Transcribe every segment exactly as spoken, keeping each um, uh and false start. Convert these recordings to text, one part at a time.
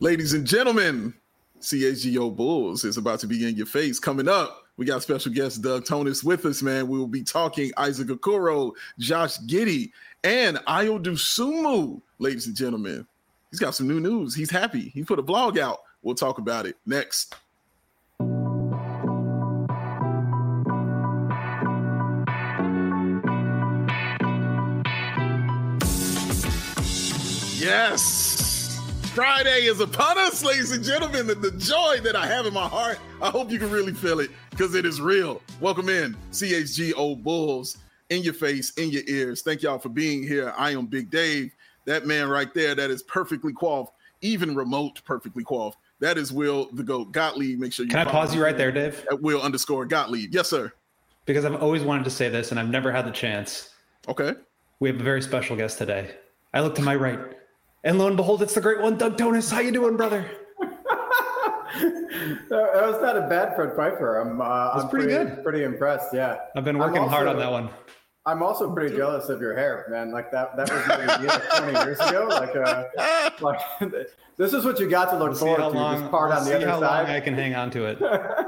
Ladies and gentlemen, C H G O Bulls is about to be in your face. Coming up, we got special guest Doug Tonis with us, man. We will be talking Isaac Okoro, Josh Giddey, and Ayo Dosunmu, ladies and gentlemen. He's got some new news. He's happy. He put a blog out. We'll talk about it next. Yes, Friday is upon us, ladies and gentlemen. The, the joy that I have in my heart, I hope you can really feel it because it is real. Welcome in, C H G O Bulls, in your face, in your ears. Thank y'all for being here. I am Big Dave. That man right there, that is perfectly coiffed, even remote perfectly coiffed. That is Will the GOAT Gottlieb. Make sure you Can I pause you right there, Dave? At Will underscore Gottlieb. Yes, sir. Because I've always wanted to say this and I've never had the chance. Okay. We have a very special guest today. I look to my right. And lo and behold, it's the great one, Doug Tonis. How you doing, brother? That was not a bad Fred Pfeiffer. I'm, uh, I'm pretty, pretty good. Pretty impressed. Yeah, I've been working also, hard on that one. I'm also pretty jealous of your hair, man. Like that. That was maybe like twenty years ago. Like, uh, like this is what you got to look we'll forward to. Long, this part we'll on the see other how side. Long I can hang on to it.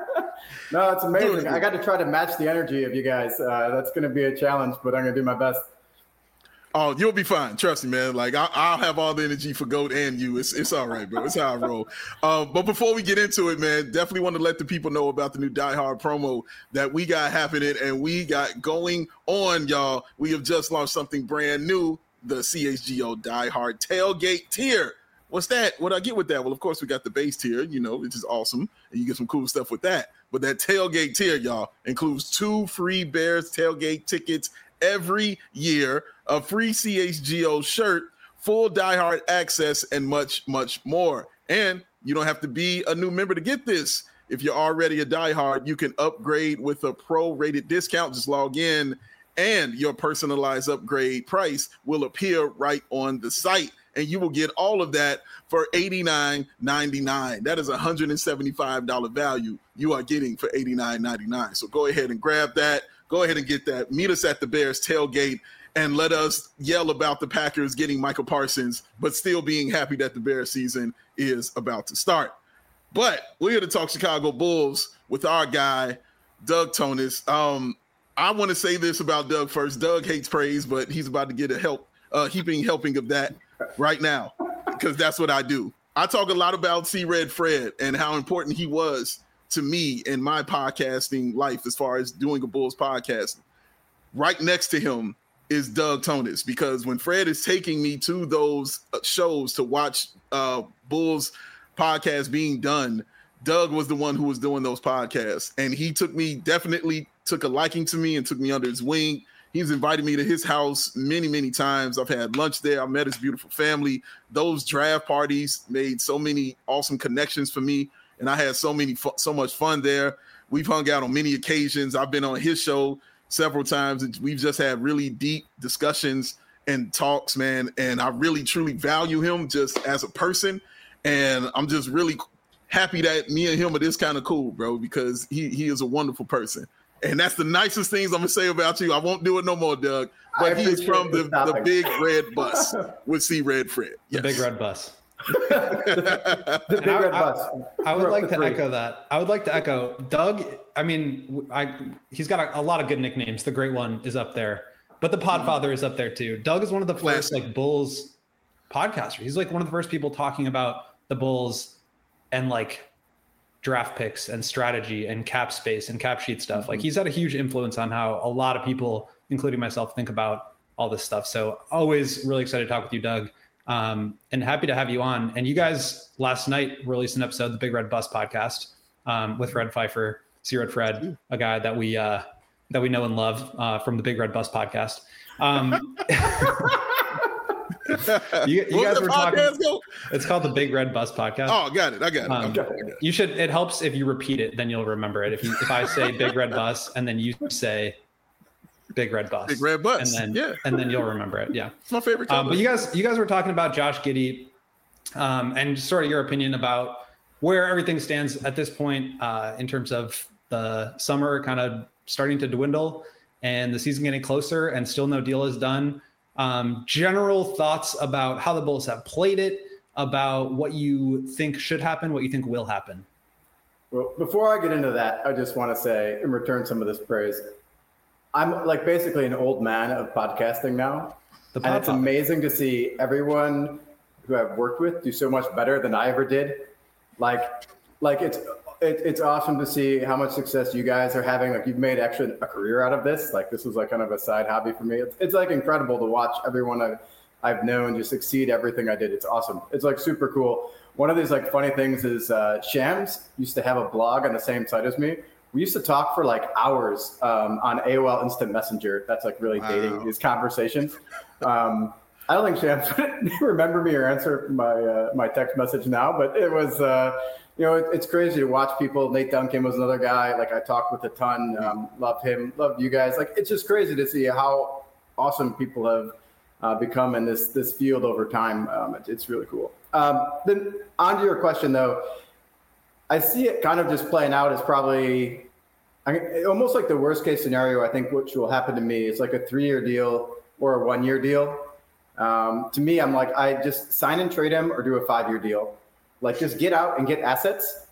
No, it's amazing. I got to try to match the energy of you guys. Uh, that's going to be a challenge, but I'm going to do my best. Oh, you'll be fine. Trust me, man. Like I, I'll have all the energy for GOAT and you. It's it's all right, bro. It's how I roll. Uh, but before we get into it, man, definitely want to let the people know about the new Die Hard promo that we got happening and we got going on, y'all. We have just launched something brand new, the C H G O Die Hard Tailgate tier. What's that? What I get with that? Well, of course, we got the base tier, you know, which is awesome, and you get some cool stuff with that. But that tailgate tier, y'all, includes two free Bears tailgate tickets every year, a free C H G O shirt, full Die Hard access, and much, much more. And you don't have to be a new member to get this. If you're already a Die Hard, you can upgrade with a pro-rated discount. Just log in, and your personalized upgrade price will appear right on the site. And you will get all of that for eighty-nine ninety-nine. That is a one hundred seventy-five dollars value you are getting for eighty-nine ninety-nine. So go ahead and grab that. Go ahead and get that. Meet us at the Bears tailgate and let us yell about the Packers getting Michael Parsons, but still being happy that the Bears season is about to start. But we're here to talk Chicago Bulls with our guy, Doug Tonis. Um, I want to say this about Doug first. Doug hates praise, but he's about to get a help, uh, heaping helping of that right now, because that's what I do. I talk a lot about C. Red Fred and how important he was to me in my podcasting life as far as doing a Bulls podcast. Right next to him is Doug Tonis, because when Fred is taking me to those shows to watch uh, Bulls podcasts being done, Doug was the one who was doing those podcasts. And he took me, definitely took a liking to me and took me under his wing. He's invited me to his house many, many times. I've had lunch there. I met his beautiful family. Those draft parties made so many awesome connections for me. And I had so many, fu- so much fun there. We've hung out on many occasions. I've been on his show several times, and we've just had really deep discussions and talks, man. And I really, truly value him just as a person. And I'm just really happy that me and him are this kind of cool, bro, because he he is a wonderful person. And that's the nicest things I'm gonna say about you. I won't do it no more, Doug. But he is from the, the Big Red Bus with C. Red Fred. Yes. The Big Red Bus. the the big I, red I, bus. I would like to echo that. I would like to echo Doug. I mean, I he's got a, a lot of good nicknames. The Great One is up there, but the Podfather is up there too. Doug is one of the first like Bulls podcasters. He's like one of the first people talking about the Bulls and like draft picks and strategy and cap space and cap sheet stuff. Mm-hmm. Like he's had a huge influence on how a lot of people, including myself, think about all this stuff. So always really excited to talk with you, Doug. Um, and happy to have you on. And you guys last night released an episode of the Big Red Bus podcast um, with Fred Pfeiffer, C. Red Fred, a guy that we uh, that we know and love uh, from the Big Red Bus podcast. Um, you, you guys were talking. Go? It's called the Big Red Bus podcast. Oh, got it. I got it. Um, okay, I got it. You should. It helps if you repeat it, then you'll remember it. If you if I say Big Red Bus and then you say Big Red Bus. Big Red Bus. And then, yeah. and then you'll remember it. Yeah. It's my favorite. Um, but you guys, you guys were talking about Josh Giddey um, and sort of your opinion about where everything stands at this point uh, in terms of the summer kind of starting to dwindle and the season getting closer and still no deal is done. Um, general thoughts about how the Bulls have played it, about what you think should happen, what you think will happen. Well, before I get into that, I just want to say, and return some of this praise, I'm like basically an old man of podcasting now. The and it's amazing to see everyone who I've worked with do so much better than I ever did. Like, like it's it, it's awesome to see how much success you guys are having. Like, you've made actually a career out of this. Like, this was like kind of a side hobby for me. It's, it's like incredible to watch everyone I've, I've known just succeed everything I did. It's awesome. It's like super cool. One of these like funny things is uh, Shams used to have a blog on the same site as me. We used to talk for like hours um, on A O L Instant Messenger. That's like really wow. dating these conversations. Um, I don't think Shams would remember me or answer my uh, my text message now, but it was, uh, you know, it, it's crazy to watch people. Nate Duncan was another guy like I talked with a ton. Um, love him, love you guys. Like, it's just crazy to see how awesome people have uh, become in this this field over time. Um, it, it's really cool. Um, then on to your question though, I see it kind of just playing out as probably I mean, almost like the worst case scenario. I think which will happen to me is like a three year deal or a one year deal. Um, to me, I'm like, I just sign and trade him or do a five year deal. Like, just get out and get assets,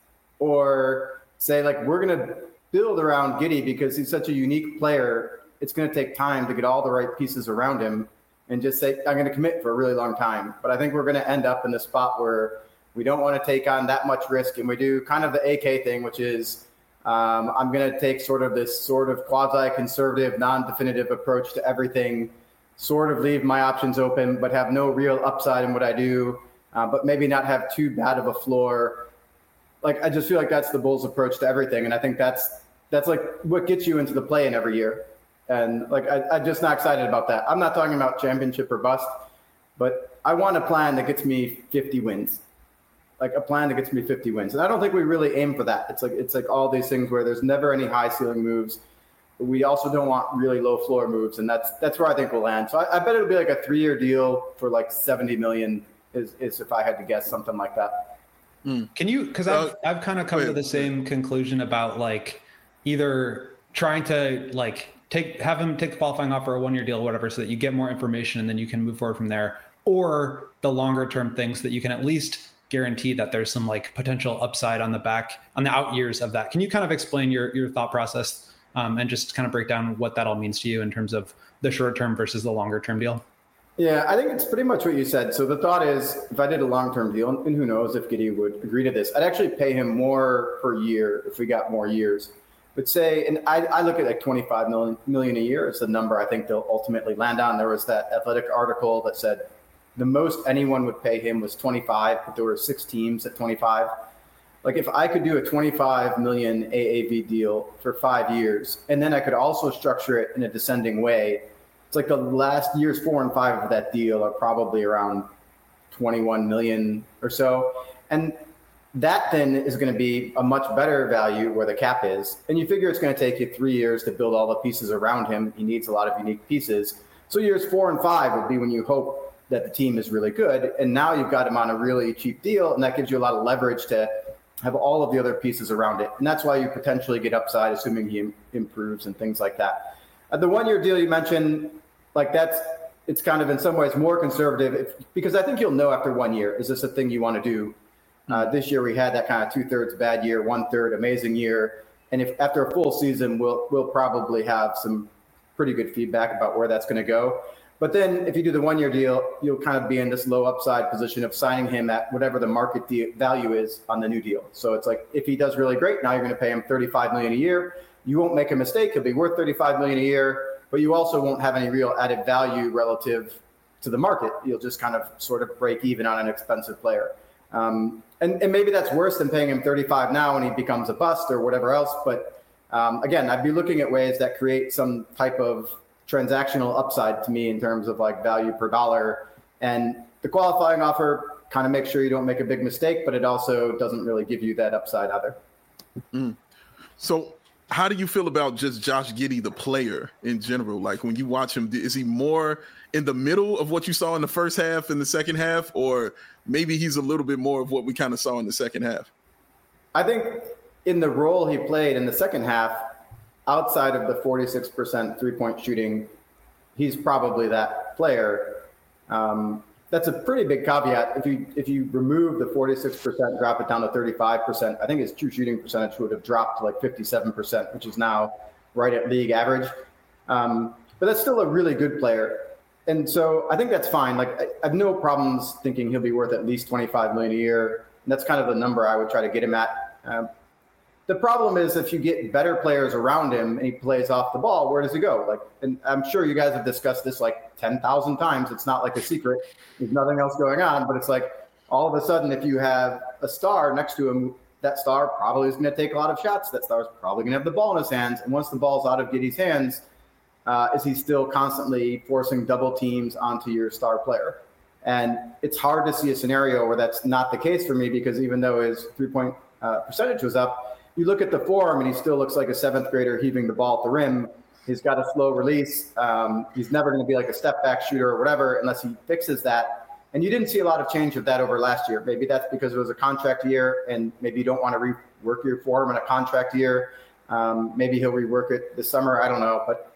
or say like, we're going to build around Giddey because he's such a unique player. It's going to take time to get all the right pieces around him, and just say, I'm going to commit for a really long time. But I think we're going to end up in the spot where we don't want to take on that much risk. And we do kind of the A K thing, which is um, I'm going to take sort of this sort of quasi-conservative, non-definitive approach to everything, sort of leave my options open, but have no real upside in what I do, uh, but maybe not have too bad of a floor. Like, I just feel like that's the Bulls' approach to everything. And I think that's that's like what gets you into the play-in every year. And like, I, I'm just not excited about that. I'm not talking about championship or bust, but I want a plan that gets me fifty wins. Like a plan that gets me fifty wins. And I don't think we really aim for that. It's like, it's like all these things where there's never any high ceiling moves. We also don't want really low floor moves, and that's that's where I think we'll land. So I, I bet it'll be like a three-year deal for like seventy million is, is if I had to guess, something like that. Mm. Can you, because I've, I've kind of come wait, to the same wait. conclusion about like either trying to like take have him take the qualifying offer, a one-year deal or whatever, so that you get more information and then you can move forward from there, or the longer-term things that you can at least guarantee that there's some like potential upside on the back, on the out years of that. Can you kind of explain your your thought process? Um, and just kind of break down what that all means to you in terms of the short-term versus the longer-term deal? Yeah, I think it's pretty much what you said. So the thought is, if I did a long-term deal, and who knows if Giddey would agree to this, I'd actually pay him more per year if we got more years. But say, and I, I look at like twenty-five million, million a year is the number I think they'll ultimately land on. There was that Athletic article that said the most anyone would pay him was twenty-five, but there were six teams at twenty-five. Like, if I could do a twenty-five million A A V deal for five years, and then I could also structure it in a descending way, it's like the last years four and five of that deal are probably around twenty-one million or so. And that then is going to be a much better value where the cap is. And you figure it's going to take you three years to build all the pieces around him. He needs a lot of unique pieces. So years four and five would be when you hope that the team is really good. And now you've got him on a really cheap deal, and that gives you a lot of leverage to have all of the other pieces around it. And that's why you potentially get upside, assuming he improves and things like that. Uh, the one-year deal you mentioned, like that's, it's kind of in some ways more conservative if, because I think you'll know after one year, is this a thing you want to do? Uh, this year we had that kind of two-thirds bad year, one-third amazing year. And if after a full season, we'll we'll probably have some pretty good feedback about where that's going to go. But then if you do the one-year deal, you'll kind of be in this low upside position of signing him at whatever the market de- value is on the new deal. So it's like, if he does really great, now you're going to pay him thirty-five million dollars a year. You won't make a mistake. He'll be worth thirty-five million dollars a year, but you also won't have any real added value relative to the market. You'll just kind of sort of break even on an expensive player. Um, and, and maybe that's worse than paying him thirty-five now when he becomes a bust or whatever else. But um, again, I'd be looking at ways that create some type of transactional upside to me in terms of like value per dollar. And the qualifying offer kind of makes sure you don't make a big mistake, but it also doesn't really give you that upside either. Mm. So how do you feel about just Josh Giddey, the player in general? Like, when you watch him, is he more in the middle of what you saw in the first half and the second half, or maybe he's a little bit more of what we kind of saw in the second half? I think in the role he played in the second half, outside of the forty-six percent three-point shooting, he's probably that player. Um, that's a pretty big caveat. If you if you remove the forty-six percent, drop it down to thirty-five percent, I think his true shooting percentage would have dropped to like fifty-seven percent, which is now right at league average. Um, but that's still a really good player. And so I think that's fine. Like I, I have no problems thinking he'll be worth at least twenty-five million dollars a year. And that's kind of the number I would try to get him at. Um, the problem is if you get better players around him and he plays off the ball, where does he go? Like, and I'm sure you guys have discussed this like ten thousand times. It's not like a secret. There's nothing else going on, but it's like all of a sudden, if you have a star next to him, that star probably is going to take a lot of shots. That star is probably going to have the ball in his hands. And once the ball's out of Giddey's hands, uh, is he still constantly forcing double teams onto your star player? And it's hard to see a scenario where that's not the case for me, because even though his three-point uh, percentage was up, you look at the form and he still looks like a seventh grader heaving the ball at the rim. He's got a slow release. Um, he's never going to be like a step back shooter or whatever unless he fixes that. And you didn't see a lot of change of that over last year. Maybe that's because it was a contract year and maybe you don't want to rework your form in a contract year. Um, maybe he'll rework it this summer. I don't know. But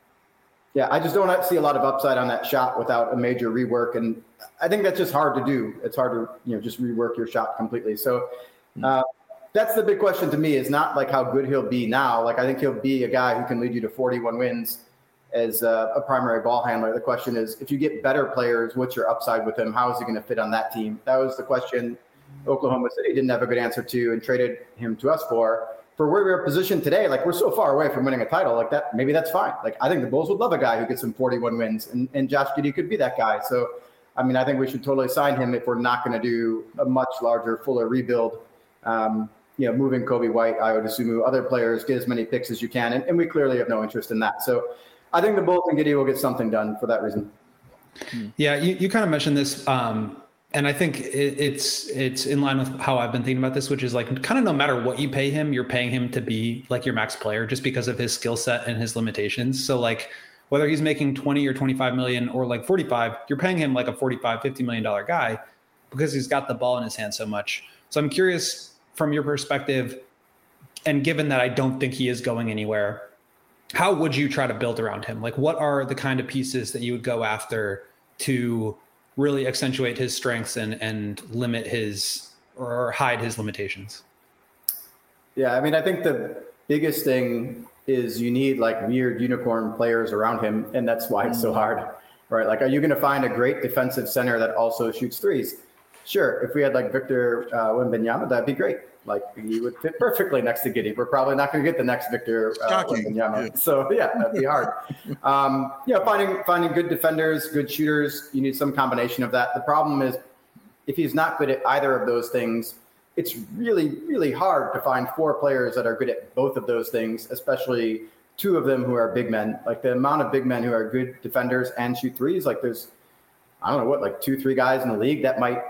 yeah, I just don't see a lot of upside on that shot without a major rework. And I think that's just hard to do. It's hard to, you know, just rework your shot completely. So, uh, that's the big question to me, is not like how good he'll be now. Like, I think he'll be a guy who can lead you to forty-one wins as a, a primary ball handler. The question is, if you get better players, what's your upside with him? How is he going to fit on that team? That was the question Oklahoma City didn't have a good answer to and traded him to us for. For where we're positioned today, like we're so far away from winning a title, like that, maybe that's fine. Like I think the Bulls would love a guy who gets some forty-one wins, and, and Josh Giddey could be that guy. So, I mean, I think we should totally sign him if we're not going to do a much larger, fuller rebuild. Um, you know, moving Kobe White, I would assume other players get as many picks as you can. And, and we clearly have no interest in that. So I think the Bulls and Giddey will get something done for that reason. Yeah, you, you kind of mentioned this. Um, and I think it, it's it's in line with how I've been thinking about this, which is like kind of no matter what you pay him, you're paying him to be like your max player just because of his skill set and his limitations. So like whether he's making twenty or twenty-five million or like forty-five, you're paying him like a forty-five, fifty million dollar guy because he's got the ball in his hand so much. So I'm curious, from your perspective, and given that I don't think he is going anywhere, how would you try to build around him? Like, what are the kind of pieces that you would go after to really accentuate his strengths and, and limit his or hide his limitations? Yeah, I mean, I think the biggest thing is you need like weird unicorn players around him, and that's why it's so hard, right? Like, are you going to find a great defensive center that also shoots threes? Sure, if we had like Victor uh, Wembanyama, that'd be great. Like he would fit perfectly next to Giddey. We're probably not going to get the next Victor uh, Wembanyama. Yeah. So yeah, that'd be hard. um, you know, finding finding good defenders, good shooters. You need some combination of that. The problem is, if he's not good at either of those things, it's really really hard to find four players that are good at both of those things, especially two of them who are big men. Like the amount of big men who are good defenders and shoot threes. Like there's, I don't know what, like two three guys in the league that might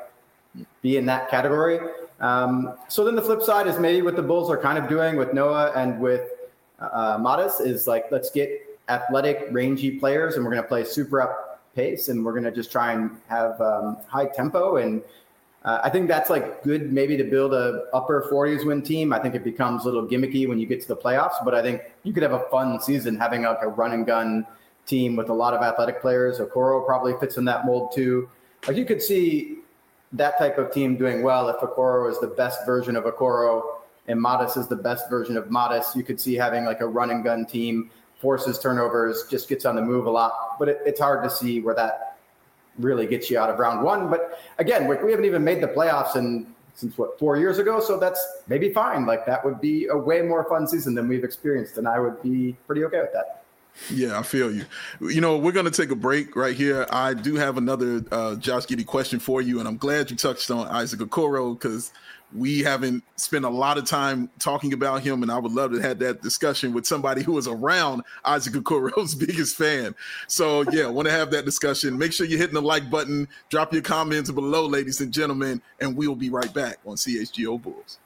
be in that category. Um, so then the flip side is maybe what the Bulls are kind of doing with Noah and with uh, Modest is like, let's get athletic, rangy players, and we're going to play super up pace, and we're going to just try and have um, high tempo. And uh, I think that's like good maybe to build a upper forties win team. I think it becomes a little gimmicky when you get to the playoffs, but I think you could have a fun season having like a run and gun team with a lot of athletic players. Okoro probably fits in that mold too. Like you could see that type of team doing well if Okoro is the best version of Okoro and Modest is the best version of Modest. You could see having like a run and gun team, forces turnovers, just gets on the move a lot. But it, it's hard to see where that really gets you out of round one. But again, we, we haven't even made the playoffs in since what, four years ago. So that's maybe fine. Like that would be a way more fun season than we've experienced. And I would be pretty okay with that. Yeah, I feel you. You know, we're going to take a break right here. I do have another uh, Josh Giddey question for you, and I'm glad you touched on Isaac Okoro because we haven't spent a lot of time talking about him, and I would love to have that discussion with somebody who was around Isaac Okoro's biggest fan. So, yeah, want to have that discussion. Make sure you're hitting the like button. Drop your comments below, ladies and gentlemen, and we'll be right back on C H G O Bulls.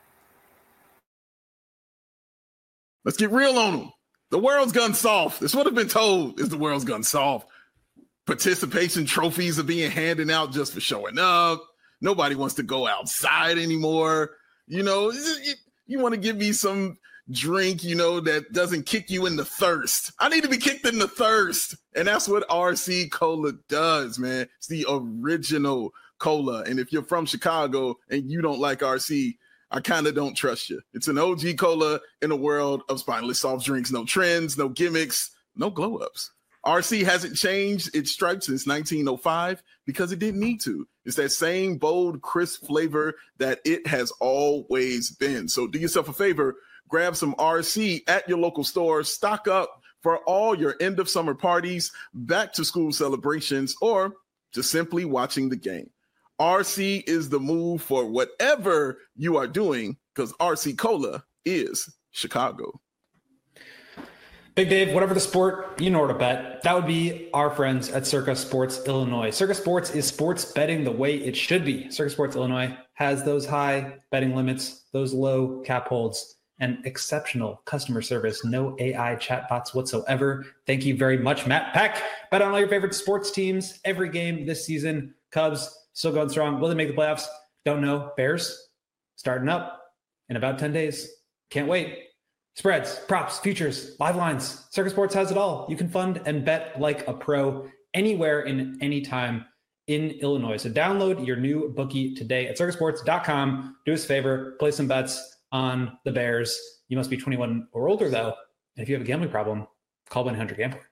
Let's get real on them. The world's gone soft. That's what I've been told is the world's gone soft. Participation trophies are being handed out just for showing up. Nobody wants to go outside anymore. You know, you, you want to give me some, drink, you know, that doesn't kick you in the thirst. I need to be kicked in the thirst. And that's what R C Cola does, man. It's the original cola. And if you're from Chicago and you don't like R C, I kind of don't trust you. It's an O G cola in a world of spineless soft drinks. No trends, no gimmicks, no glow-ups. R C hasn't changed its stripe since nineteen oh five because it didn't need to. It's that same bold, crisp flavor that it has always been. So do yourself a favor, grab some R C at your local store, stock up for all your end of summer parties, back to school celebrations, or just simply watching the game. R C is the move for whatever you are doing because R C Cola is Chicago. Big Dave, whatever the sport, you know where to bet. That would be our friends at Circa Sports Illinois. Circa Sports is sports betting the way it should be. Circa Sports Illinois has those high betting limits, those low cap holds, and exceptional customer service. No A I chatbots whatsoever. Thank you very much, Matt Peck. Bet on all your favorite sports teams every game this season. Cubs still going strong. Will they make the playoffs? Don't know. Bears starting up in about ten days. Can't wait. Spreads, props, futures, live lines. Circa Sports has it all. You can fund and bet like a pro anywhere and anytime in Illinois. So download your new bookie today at circa sports dot com. Do us a favor, place some bets on the Bears. You must be twenty-one or older, though. And if you have a gambling problem, call one eight hundred gambler.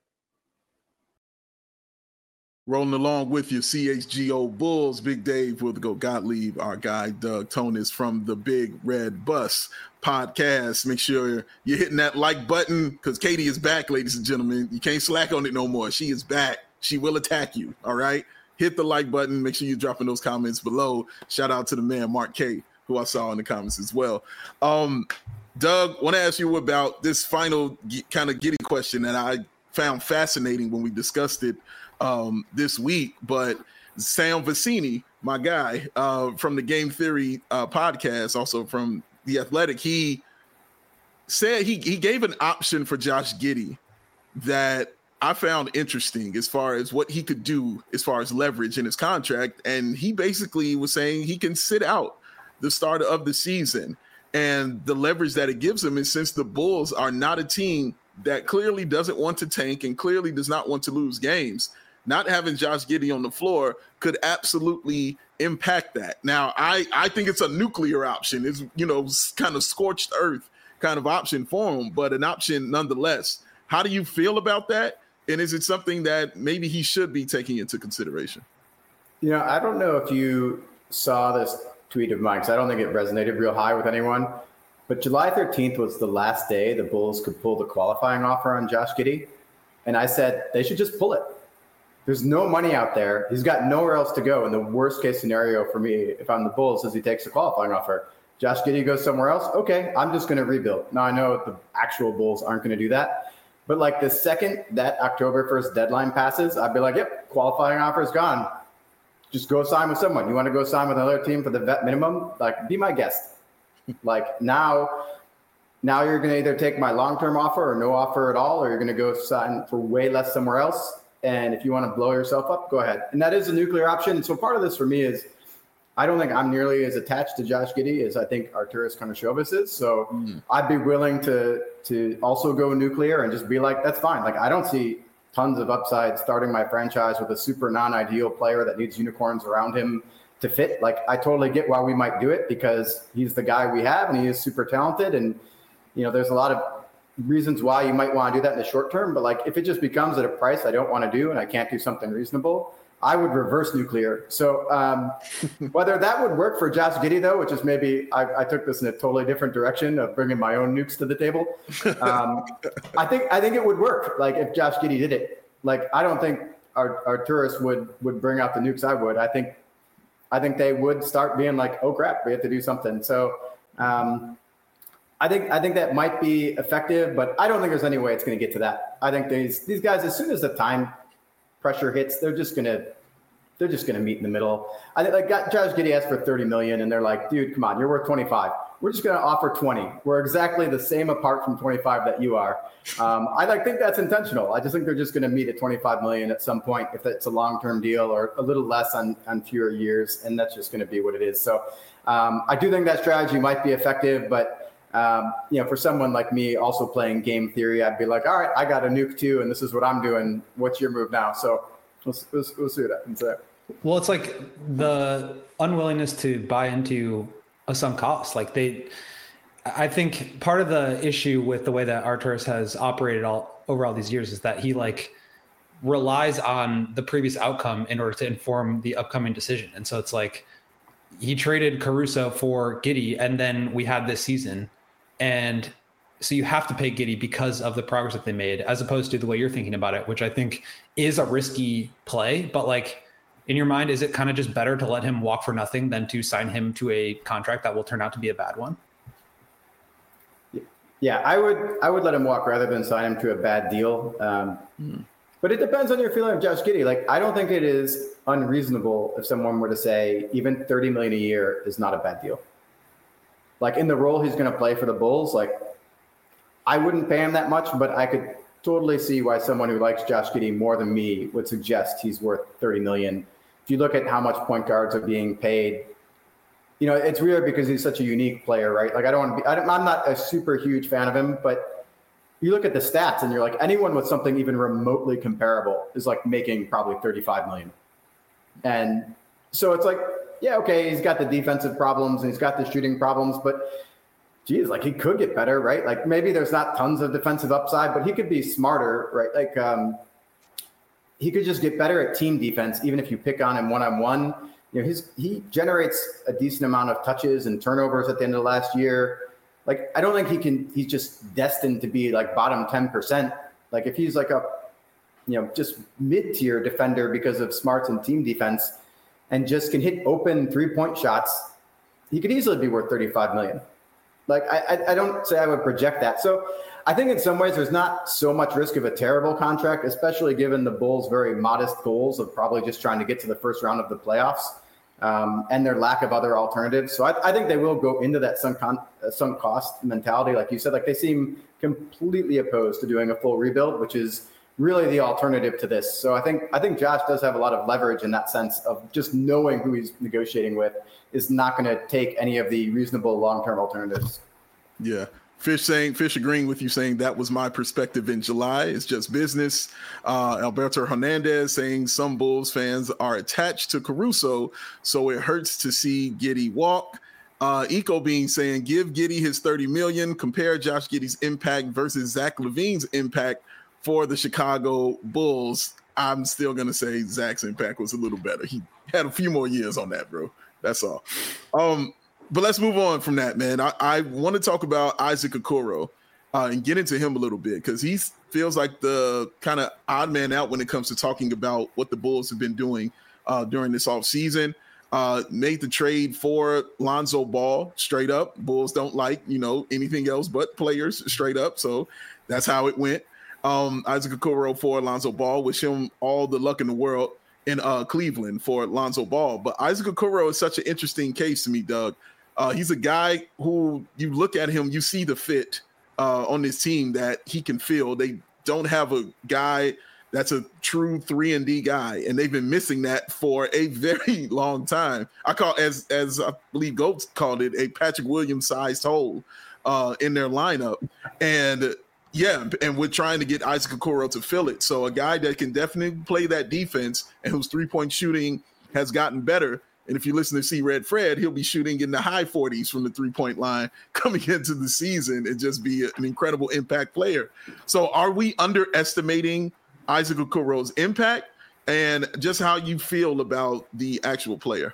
Rolling along with you, C H G O Bulls, Big Dave, Will the Go Gottlieb, our guy, Doug Tonis from the Big Red Bus podcast. Make sure you're hitting that like button because Katie is back, ladies and gentlemen. You can't slack on it no more. She is back. She will attack you, all right? Hit the like button. Make sure you're dropping those comments below. Shout out to the man, Mark K., who I saw in the comments as well. Um, Doug, want to ask you about this final kind of giddy question that I found fascinating when we discussed it Um, this week, but Sam Vecenie, my guy uh, from the Game Theory uh, podcast, also from The Athletic, he said he he gave an option for Josh Giddey that I found interesting as far as what he could do as far as leverage in his contract. And he basically was saying he can sit out the start of the season. And the leverage that it gives him is since the Bulls are not a team that clearly doesn't want to tank and clearly does not want to lose games, not having Josh Giddey on the floor could absolutely impact that. Now, I, I think it's a nuclear option. It's, you know, kind of scorched earth kind of option for him, but an option nonetheless. How do you feel about that? And is it something that maybe he should be taking into consideration? You know, I don't know if you saw this tweet of mine, because I don't think it resonated real high with anyone, but July thirteenth was the last day the Bulls could pull the qualifying offer on Josh Giddey. And I said, they should just pull it. There's no money out there. He's got nowhere else to go. And the worst case scenario for me, if I'm the Bulls, is he takes the qualifying offer. Josh Giddey goes somewhere else. Okay, I'm just going to rebuild. Now, I know the actual Bulls aren't going to do that. But like the second that October first deadline passes, I'd be like, yep, qualifying offer is gone. Just go sign with someone. You want to go sign with another team for the vet minimum? Like, be my guest. Like now, now you're going to either take my long-term offer or no offer at all, or you're going to go sign for way less somewhere else. And if you want to blow yourself up, go ahead. And that is a nuclear option. So part of this for me is I don't think I'm nearly as attached to Josh Giddey as I think Arturas Karnisovas is. So mm. I'd be willing to to also go nuclear and just be like, that's fine. Like I don't see tons of upside starting my franchise with a super non-ideal player that needs unicorns around him to fit. Like I totally get why we might do it because he's the guy we have and he is super talented. And, you know, there's a lot of reasons why you might want to do that in the short term, but like if it just becomes at a price I don't want to do and I can't do something reasonable, I would reverse nuclear. So um, whether that would work for Josh Giddey though, which is maybe I, I took this in a totally different direction of bringing my own nukes to the table. Um, I think I think it would work. Like if Josh Giddey did it, like I don't think our Arturas would would bring out the nukes I would. I think I think they would start being like, oh crap, we have to do something. So. Um, I think I think that might be effective, but I don't think there's any way it's going to get to that. I think these these guys, as soon as the time pressure hits, they're just gonna they're just gonna meet in the middle. I think like Josh Giddey asked for thirty million, and they're like, dude, come on, you're worth twenty-five. We're just gonna offer twenty. We're exactly the same apart from twenty-five that you are. Um, I like think that's intentional. I just think they're just gonna meet at twenty-five million at some point if it's a long term deal or a little less on on fewer years, and that's just gonna be what it is. So um, I do think that strategy might be effective, but. Um, you know, for someone like me also playing game theory, I'd be like, all right, I got a nuke too, and this is what I'm doing. What's your move now? So we'll, we'll, we'll see what happens there. Well, it's like the unwillingness to buy into a sunk cost. Like they, I think part of the issue with the way that Arturas has operated all over all these years is that he like relies on the previous outcome in order to inform the upcoming decision. And so it's like he traded Caruso for Giddey, and then we had this season. And so you have to pay Giddey because of the progress that they made, as opposed to the way you're thinking about it, which I think is a risky play. But like in your mind, is it kind of just better to let him walk for nothing than to sign him to a contract that will turn out to be a bad one? Yeah, I would I would let him walk rather than sign him to a bad deal. Um, mm. But it depends on your feeling of Josh Giddey. Like, I don't think it is unreasonable if someone were to say even thirty million dollars a year is not a bad deal. Like, in the role he's going to play for the Bulls, like, I wouldn't pay him that much, but I could totally see why someone who likes Josh Giddey more than me would suggest he's worth thirty million dollars. If you look at how much point guards are being paid, you know, it's weird because he's such a unique player, right? Like, I don't want to be, I don't, I'm not a super huge fan of him, but you look at the stats and you're like, anyone with something even remotely comparable is like making probably thirty-five million. And so it's like, yeah, okay, he's got the defensive problems and he's got the shooting problems, but geez, like he could get better, right? Like maybe there's not tons of defensive upside, but he could be smarter, right? Like um, he could just get better at team defense, even if you pick on him one-on-one. You know, his, he generates a decent amount of touches and turnovers at the end of last year. Like, I don't think he can, he's just destined to be like bottom ten percent. Like if he's like a, you know, just mid-tier defender because of smarts and team defense and just can hit open three-point shots, he could easily be worth thirty-five million. Like, I, I don't say I would project that. So I think in some ways there's not so much risk of a terrible contract, especially given the Bulls' very modest goals of probably just trying to get to the first round of the playoffs. Um, and their lack of other alternatives. So I, I think they will go into that sunk, con, uh, sunk cost mentality. Like you said, like they seem completely opposed to doing a full rebuild, which is really the alternative to this. So I think, I think Josh does have a lot of leverage in that sense of just knowing who he's negotiating with is not going to take any of the reasonable long-term alternatives. Yeah. Fish saying, Fish agreeing with you, saying that was my perspective in July. It's just business. Uh, Alberto Hernandez saying some Bulls fans are attached to Caruso, so it hurts to see Giddey walk. Uh, Eco Bean saying, give Giddey his thirty million dollars, compare Josh Giddey's impact versus Zach LaVine's impact for the Chicago Bulls. I'm still going to say Zach's impact was a little better. He had a few more years on that, bro. That's all. Um, But let's move on from that, man. I, I want to talk about Isaac Okoro uh, and get into him a little bit because he feels like the kind of odd man out when it comes to talking about what the Bulls have been doing uh, during this offseason. Uh, made the trade for Lonzo Ball straight up. Bulls don't like, you know, anything else but players straight up. So that's how it went. Um, Isaac Okoro for Lonzo Ball. Wish him all the luck in the world in uh, Cleveland for Lonzo Ball. But Isaac Okoro is such an interesting case to me, Doug. Uh, he's a guy who you look at him, you see the fit uh, on this team that he can fill. They don't have a guy that's a true three and D guy, and they've been missing that for a very long time. I call, as as I believe Goats called it, a Patrick Williams-sized hole uh, in their lineup. And yeah, and we're trying to get Isaac Okoro to fill it. So a guy that can definitely play that defense and whose three-point shooting has gotten better. And if you listen to See Red Fred, he'll be shooting in the high forties from the three-point line coming into the season and just be an incredible impact player. So are we underestimating Isaac Okoro's impact and just how you feel about the actual player?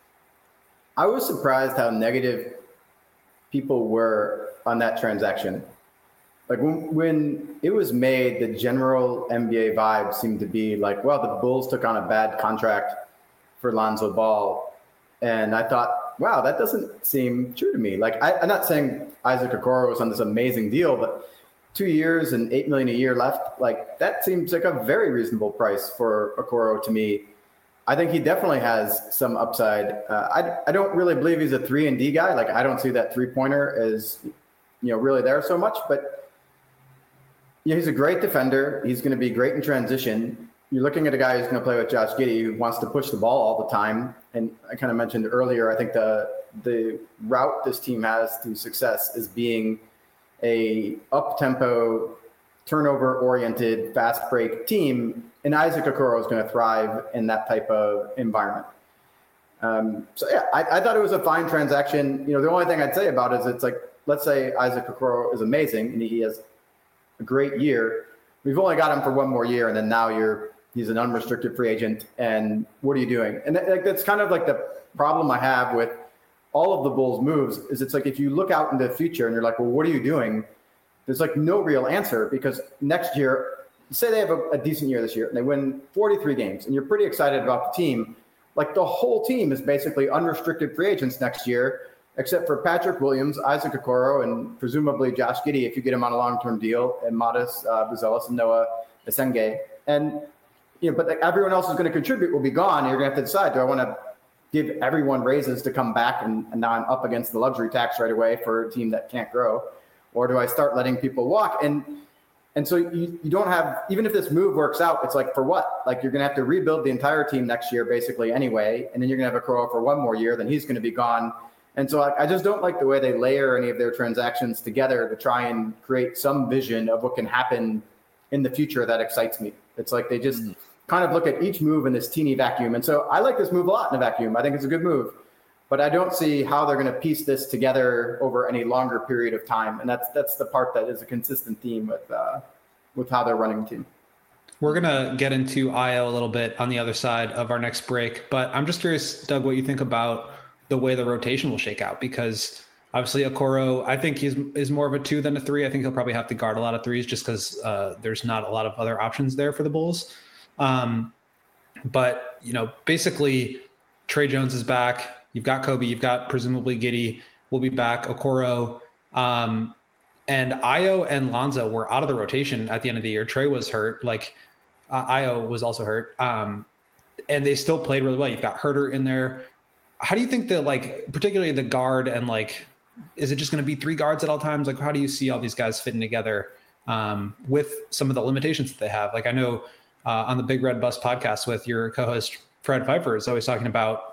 I was surprised how negative people were on that transaction. Like when, when it was made, the general N B A vibe seemed to be like, well, the Bulls took on a bad contract for Lonzo Ball. And I thought, wow, that doesn't seem true to me. Like, I, I'm not saying Isaac Okoro was on this amazing deal, but two years and eight million a year left, like that seems like a very reasonable price for Okoro to me. I think he definitely has some upside. Uh, I, I don't really believe he's a three and D guy. Like, I don't see that three pointer as, you know, really there so much, but yeah, he's a great defender. He's going to be great in transition. You're looking at a guy who's going to play with Josh Giddey, who wants to push the ball all the time. And I kind of mentioned earlier, I think the the route this team has to success is being a up-tempo, turnover-oriented, fast-break team, and Isaac Okoro is going to thrive in that type of environment. Um, so yeah, I, I thought it was a fine transaction. You know, the only thing I'd say about it is it's like, let's say Isaac Okoro is amazing and he has a great year. We've only got him for one more year, and then now you're he's an unrestricted free agent. And what are you doing? And that, that's kind of like the problem I have with all of the Bulls' moves. Is it's like if you look out into the future and you're like, well, what are you doing? There's like no real answer, because next year, say they have a, a decent year this year and they win forty-three games, and you're pretty excited about the team. Like the whole team is basically unrestricted free agents next year, except for Patrick Williams, Isaac Okoro, and presumably Josh Giddey if you get him on a long-term deal, and Modest uh, Buzelis and Noah Esenge. And you know, but like, everyone else is going to contribute will be gone. And you're going to have to decide: do I want to give everyone raises to come back, and, and now I'm up against the luxury tax right away for a team that can't grow, or do I start letting people walk? And And so you, you don't have, even if this move works out, it's like, for what? Like, you're going to have to rebuild the entire team next year, basically, anyway. And then you're going to have Okoro for one more year, then he's going to be gone. And so I, I just don't like the way they layer any of their transactions together to try and create some vision of what can happen in the future that excites me. It's like they just mm-hmm. kind of look at each move in this teeny vacuum. And so I like this move a lot in a vacuum. I think it's a good move. But I don't see how they're going to piece this together over any longer period of time. And that's that's the part that is a consistent theme with uh, with how they're running the team. We're going to get into I O a little bit on the other side of our next break. But I'm just curious, Doug, what you think about the way the rotation will shake out. Because obviously Okoro, I think he's is more of a two than a three. I think he'll probably have to guard a lot of threes just because uh, there's not a lot of other options there for the Bulls. Um, but, you know, basically Trey Jones is back. You've got Kobe, you've got presumably Giddey will be back, Okoro. Um, and I O and Lonzo were out of the rotation at the end of the year. Trey was hurt. Like uh, I O was also hurt. Um, and they still played really well. You've got Herter in there. How do you think that, like, particularly the guard and like, is it just going to be three guards at all times? Like, how do you see all these guys fitting together um, with some of the limitations that they have? Like I know uh, on the Big Red Bus podcast with your co-host, Fred Pfeiffer, is always talking about,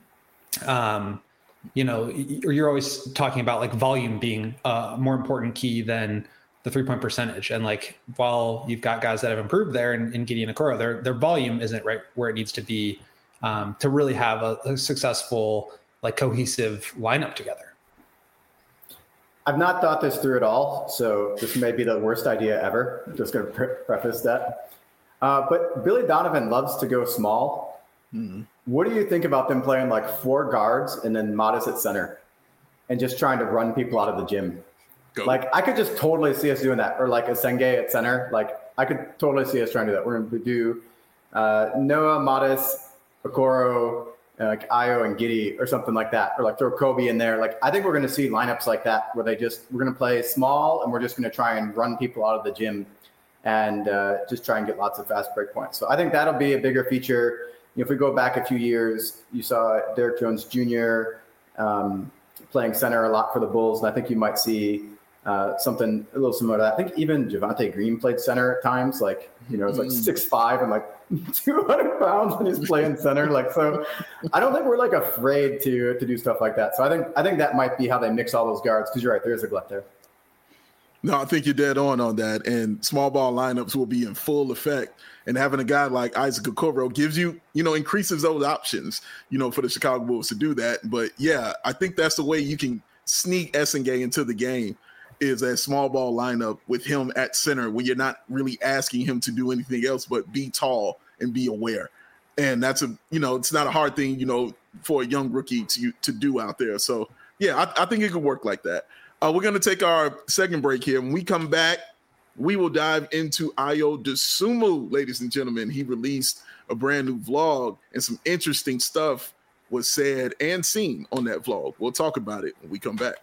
um, you know, you're always talking about like volume being a more important key than the three point percentage. And like, while you've got guys that have improved there in, in Giddey and Okoro, their, their volume isn't right where it needs to be um, to really have a, a successful, like cohesive lineup together. I've not thought this through at all. So this may be the worst idea ever. I'm just going to pre- preface that. Uh, but Billy Donovan loves to go small. Mm-hmm. What do you think about them playing like four guards and then Modest at center and just trying to run people out of the gym? Go. Like, I could just totally see us doing that. Or like Esenge at center. Like, I could totally see us trying to do that. We're going to do uh, Noah, Modest, Okoro, uh, like I O and Giddey or something like that. Or like throw Kobe in there. Like, I think we're going to see lineups like that where they just, we're going to play small and we're just going to try and run people out of the gym and uh, just try and get lots of fast break points. So I think that'll be a bigger feature. If we go back a few years, you saw Derrick Jones Junior um, playing center a lot for the Bulls. And I think you might see uh, something a little similar to that. I think even Javonte Green played center at times. Like, you know, it's like six five and like two hundred pounds when he's playing center. Like, so I don't think we're like afraid to to do stuff like that. So I think I think that might be how they mix all those guards, because you're right, there is a glut there. No, I think you're dead on on that. And small ball lineups will be in full effect. And having a guy like Isaac Okoro gives you, you know, increases those options, you know, for the Chicago Bulls to do that. But yeah, I think that's the way you can sneak Esenge into the game, is a small ball lineup with him at center when you're not really asking him to do anything else but be tall and be aware. And that's a, you know, it's not a hard thing, you know, for a young rookie to to do out there. So yeah, I, I think it could work like that. Uh, we're going to take our second break here. When we come back, we will dive into Ayo Dosunmu, ladies and gentlemen. He released a brand new vlog, and some interesting stuff was said and seen on that vlog. We'll talk about it when we come back.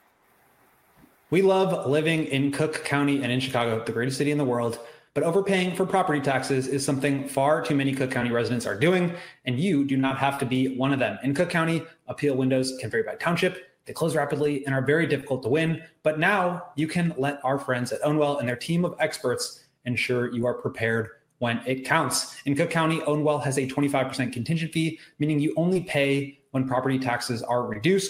We love living in Cook County and in Chicago, the greatest city in the world, but overpaying for property taxes is something far too many Cook County residents are doing, and you do not have to be one of them. In Cook County, appeal windows can vary by township. They close rapidly and are very difficult to win. But now you can let our friends at Ownwell and their team of experts ensure you are prepared when it counts. In Cook County, Ownwell has a twenty-five percent contingent fee, meaning you only pay when property taxes are reduced.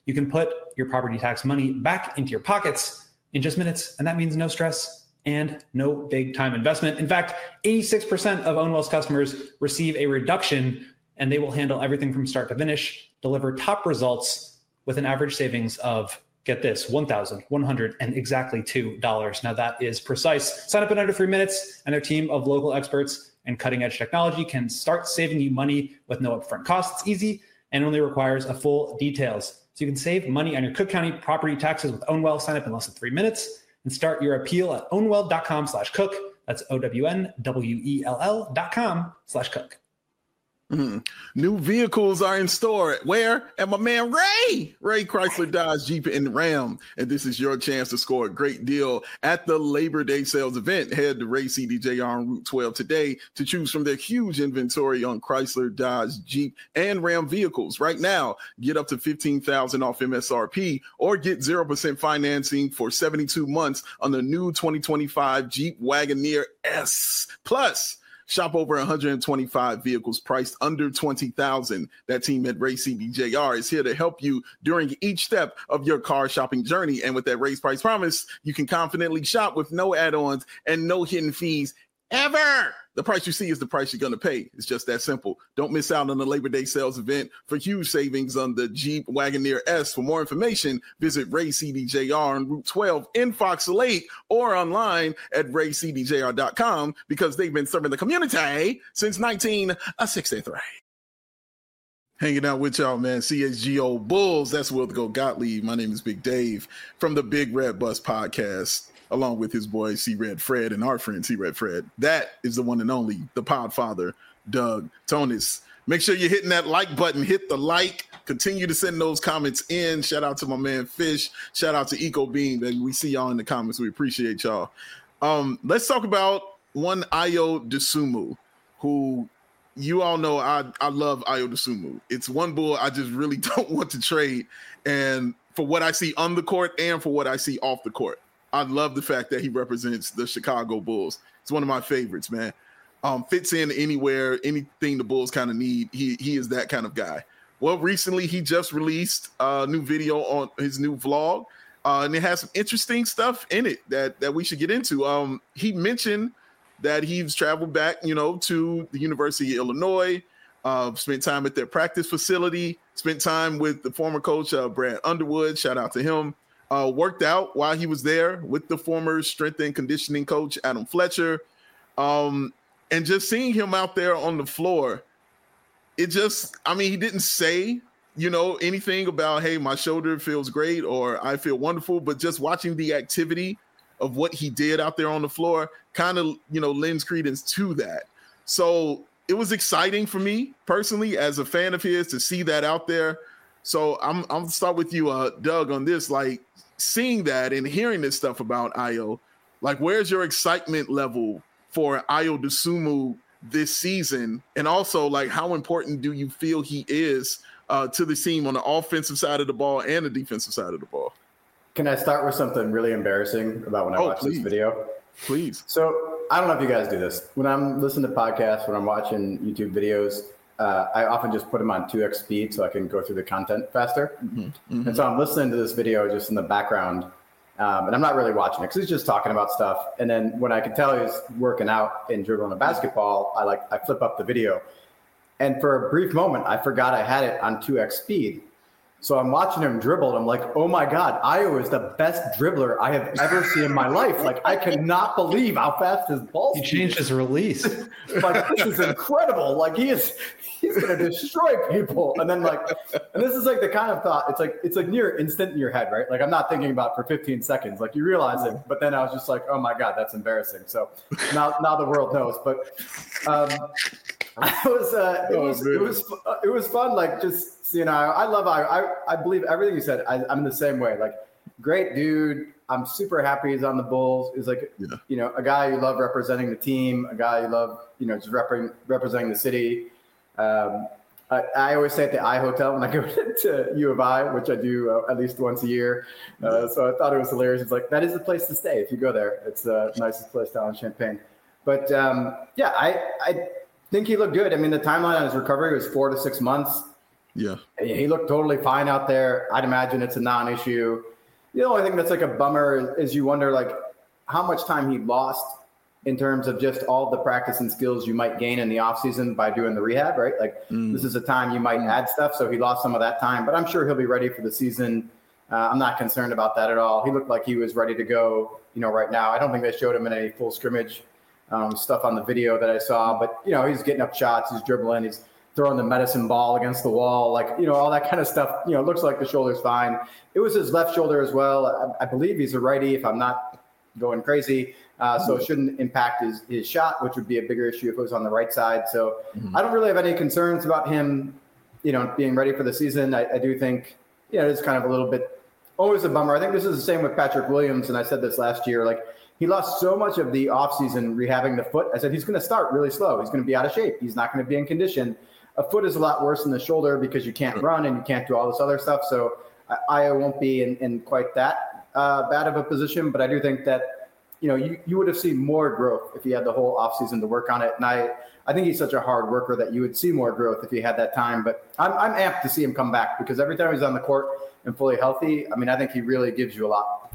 you can put your property tax money back into your pockets in just minutes. And that means no stress and no big time investment. In fact, eighty-six percent of Ownwell's customers receive a reduction, and they will handle everything from start to finish, deliver top results with an average savings of, get this, one thousand one hundred and exactly two dollars. Now that is precise. Sign up in under three minutes, and their team of local experts and cutting edge technology can start saving you money with no upfront costs. It's easy and only requires a full details. So you can save money on your Cook County property taxes with Ownwell. Sign up in less than three minutes and start your appeal at ownwell.com slash cook. That's O-W-N-W-E-L-L dot com slash cook. Mm-hmm. New vehicles are in store. Where? At my man Ray. Ray Chrysler, Dodge, Jeep, and Ram. And this is your chance to score a great deal at the Labor Day sales event. Head to Ray C D J R on Route twelve today to choose from their huge inventory on Chrysler, Dodge, Jeep, and Ram vehicles. Right now, get up to fifteen thousand dollars off M S R P or get zero percent financing for seventy-two months on the new twenty twenty-five Jeep Wagoneer S. Plus, shop over one hundred twenty-five vehicles priced under twenty thousand dollars. That team at Ray C D J R is here to help you during each step of your car shopping journey. And with that raised price promise, you can confidently shop with no add-ons and no hidden fees ever. The price you see is the price you're going to pay. It's just that simple. Don't miss out on the Labor Day sales event for huge savings on the Jeep Wagoneer S. For more information, visit Ray C D J R on Route twelve in Fox Lake or online at ray c d j r dot com because they've been serving the community since nineteen sixty-three. Hanging out with y'all, man. C H G O Bulls. That's Will the Go Gottlieb. My name is Big Dave from the Big Red Bus podcast, along with his boy C Red Fred and our friend C Red Fred. That is the one and only, the Podfather, Doug Tonis. Make sure you're hitting that like button. Hit the like. Continue to send those comments in. Shout out to my man Fish. Shout out to Eco Bean. And we see y'all in the comments. We appreciate y'all. Um, let's talk about one Ayo Dosunmu, who you all know I, I love Ayo Dosunmu. It's one bull I just really don't want to trade. And for what I see on the court and for what I see off the court, I love the fact that he represents the Chicago Bulls. It's one of my favorites, man. Um, fits in anywhere, anything the Bulls kind of need. He he is that kind of guy. Well, recently he just released a new video on his new vlog, uh, and it has some interesting stuff in it that that we should get into. Um, he mentioned that he's traveled back, you know, to the University of Illinois, uh, spent time at their practice facility, spent time with the former coach, uh, Brad Underwood. Shout out to him. Uh, worked out while he was there with the former strength and conditioning coach, Adam Fletcher. Um, and just seeing him out there on the floor, it just, I mean, he didn't say, you know, anything about, hey, my shoulder feels great or I feel wonderful, but just watching the activity of what he did out there on the floor kind of, you know, lends credence to that. So it was exciting for me personally as a fan of his to see that out there. So I'm, I'm gonna start with you, uh, Doug, on this, like seeing that and hearing this stuff about Ayo, like where's your excitement level for Ayo Dosunmu this season? And also like how important do you feel he is uh, to the team on the offensive side of the ball and the defensive side of the ball? Can I start with something really embarrassing about when I oh, watched please. this video? Please. So I don't know if you guys do this. When I'm listening to podcasts, when I'm watching YouTube videos, uh, I often just put them on two x speed so I can go through the content faster. Mm-hmm. Mm-hmm. And so I'm listening to this video just in the background, um, and I'm not really watching it because he's just talking about stuff. And then when I can tell he's working out and dribbling a basketball, I like I flip up the video. And for a brief moment, I forgot I had it on two x speed. So I'm watching him dribble, and I'm like, oh, my God, Ayo is the best dribbler I have ever seen in my life. Like, I cannot believe how fast his ball He changed his release. Like, this is incredible. Like, he is he's going to destroy people. And then, like, and this is, like, the kind of thought. It's, like, it's, like, near instant in your head, right? Like, I'm not thinking about it for fifteen seconds. Like, you realize it. But then I was just like, oh, my God, that's embarrassing. So now now the world knows. But um, I was, uh, it, was, oh, it, was, it was fun, like, just – you know, I love Ayo. I, I believe everything you said. I, I'm the same way. Like, great dude. I'm super happy he's on the Bulls. He's like, yeah. you know, a guy you love representing the team, a guy you love, you know, just rep- representing the city. Um, I, I always stay at the I Hotel when I go to U of I, which I do uh, at least once a year. Uh, so I thought it was hilarious. It's like, that is the place to stay if you go there. It's the nicest place down in Champaign. But, um, yeah, I, I think he looked good. I mean, the timeline on his recovery was four to six months. Yeah. He looked totally fine out there. I'd imagine it's a non-issue. The only thing that's like a bummer is, is you wonder like how much time he lost in terms of just all the practice and skills you might gain in the offseason by doing the rehab, right? Like mm. this is a time you might add stuff. So he lost some of that time, but I'm sure he'll be ready for the season. Uh, I'm not concerned about that at all. He looked like he was ready to go, you know, right now. I don't think they showed him in any full scrimmage um, stuff on the video that I saw, but, you know, he's getting up shots, he's dribbling, he's throwing the medicine ball against the wall, like, you know, all that kind of stuff. You know, it looks like the shoulder's fine. It was his left shoulder as well. I, I believe he's a righty, if I'm not going crazy. Uh, so it shouldn't impact his, his shot, which would be a bigger issue if it was on the right side. So mm-hmm. I don't really have any concerns about him, you know, being ready for the season. I, I do think, yeah, it's kind of a little bit always a bummer. I think this is the same with Patrick Williams, and I said this last year. Like he lost so much of the offseason rehabbing the foot. I said he's going to start really slow. He's going to be out of shape. He's not going to be in condition. A foot is a lot worse than the shoulder because you can't run and you can't do all this other stuff. So I, I won't be in, in quite that uh, bad of a position, but I do think that, you know, you, you would have seen more growth if he had the whole offseason to work on it. And I, I think he's such a hard worker that you would see more growth if he had that time. But I'm, I'm amped to see him come back because every time he's on the court and fully healthy, I mean, I think he really gives you a lot.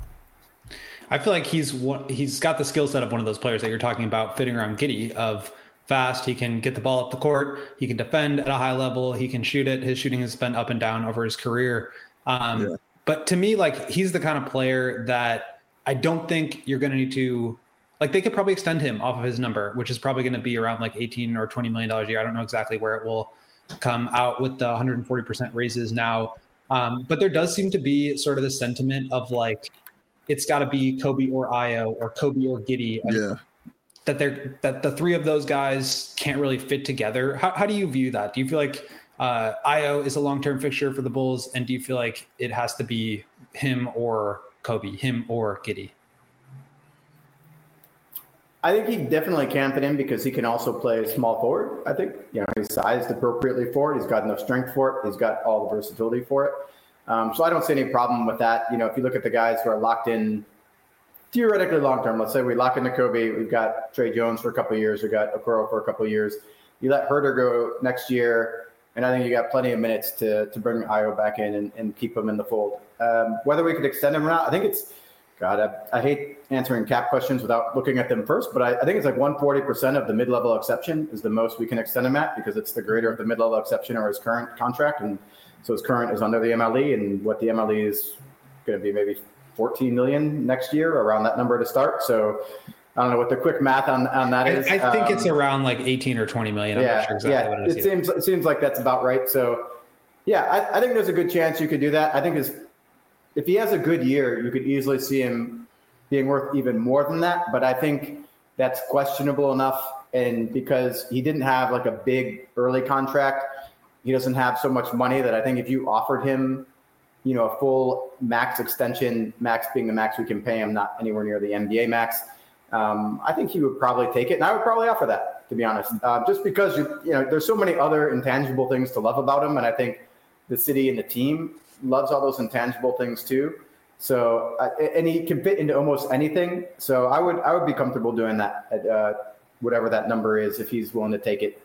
I feel like he's one, he's got the skill set of one of those players that you're talking about fitting around Giddey, of fast. He can get the ball up the court. He can defend at a high level. He can shoot it. His shooting has been up and down over his career. Um, yeah. But to me, like he's the kind of player that I don't think you're going to need to, like they could probably extend him off of his number, which is probably going to be around like eighteen or twenty million dollars a year. I don't know exactly where it will come out with the one hundred forty percent raises now. Um, but there does seem to be sort of the sentiment of like, it's got to be Kobe or Ayo or Kobe or Giddey. Yeah. That they're, that the three of those guys can't really fit together. How, how do you view that? Do you feel like uh, Ayo is a long-term fixture for the Bulls? And do you feel like it has to be him or Kobe, him or Giddey? I think he definitely can fit in because he can also play small forward. I think, you know, he's sized appropriately for it. He's got enough strength for it. He's got all the versatility for it. Um, so I don't see any problem with that. You know, if you look at the guys who are locked in theoretically long-term, let's say we lock into Kobe, we've got Trey Jones for a couple of years, we've got Okoro for a couple of years. You let Herter go next year, and I think you got plenty of minutes to to bring Ayo back in and, and keep him in the fold. Um, whether we could extend him or not, I think it's, God, I, I hate answering cap questions without looking at them first, but I, I think it's like one hundred forty percent of the mid-level exception is the most we can extend him at because it's the greater of the mid-level exception or his current contract. And so his current is under the M L E, and what the M L E is going to be maybe fourteen million next year, around that number to start. So I don't know what the quick math on, on that is. I, I think um, it's around like eighteen or twenty million. I'm yeah, not sure exactly yeah, what it is. It seems, it seems like that's about right. So yeah, I, I think there's a good chance you could do that. I think his, if he has a good year, you could easily see him being worth even more than that. But I think that's questionable enough. And because he didn't have like a big early contract, he doesn't have so much money that I think if you offered him, you know, a full max extension, max being the max we can pay him, not anywhere near the N B A max, um, I think he would probably take it. And I would probably offer that, to be honest, uh, just because, you, you know, there's so many other intangible things to love about him. And I think the city and the team loves all those intangible things too. So, uh, and he can fit into almost anything. So I would, I would be comfortable doing that at uh, whatever that number is, if he's willing to take it.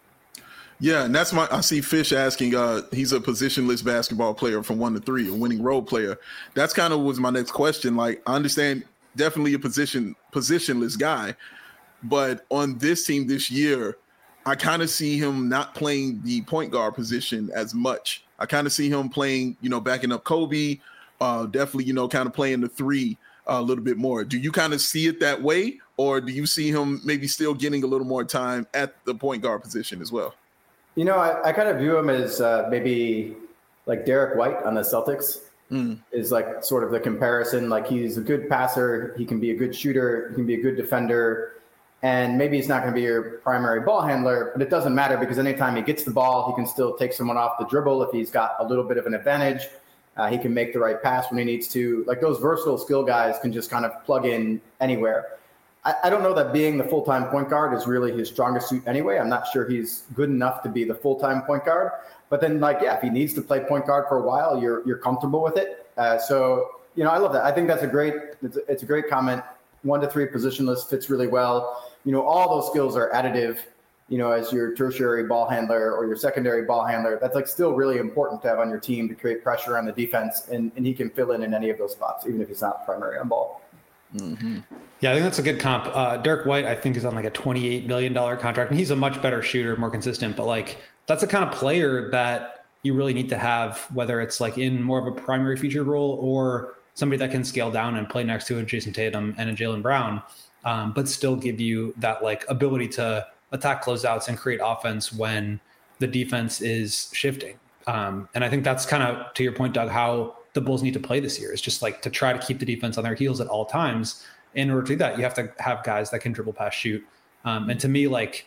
Yeah, and that's my. I see Fish asking. Uh, he's a positionless basketball player from one to three, a winning role player. That's kind of was my next question. Like, I understand definitely a position positionless guy, but on this team this year, I kind of see him not playing the point guard position as much. I kind of see him playing, you know, backing up Kobe. Uh, definitely, you know, kind of playing the three uh, a little bit more. Do you kind of see it that way, or do you see him maybe still getting a little more time at the point guard position as well? You know, I, I kind of view him as uh, maybe like Derek White on the Celtics mm. is like sort of the comparison. Like he's a good passer. He can be a good shooter. He can be a good defender. And maybe he's not going to be your primary ball handler, but it doesn't matter because anytime he gets the ball, he can still take someone off the dribble if he's got a little bit of an advantage. Uh, he can make the right pass when he needs to. Like those versatile skill guys can just kind of plug in anywhere. I don't know that being the full-time point guard is really his strongest suit anyway. I'm not sure he's good enough to be the full-time point guard. But then, like, yeah, if he needs to play point guard for a while, you're you're comfortable with it. Uh, so, you know, I love that. I think that's a great it's a, it's a great comment. One to three positionless fits really well. You know, all those skills are additive you know, as your tertiary ball handler or your secondary ball handler, that's like still really important to have on your team to create pressure on the defense. And, and he can fill in in any of those spots, even if he's not primary on ball. Mm-hmm. Yeah, I think that's a good comp. Uh, Derek White, I think, is on like a twenty-eight million dollars contract, and he's a much better shooter, more consistent. But like, that's the kind of player that you really need to have, whether it's like in more of a primary featured role or somebody that can scale down and play next to a Jason Tatum and a Jaylen Brown, um, but still give you that like ability to attack closeouts and create offense when the defense is shifting. Um, and I think that's kind of, to your point, Doug, how the Bulls need to play this year. Is just like to try to keep the defense on their heels at all times. In order to do that, you have to have guys that can dribble, pass, shoot. Um, and to me, like,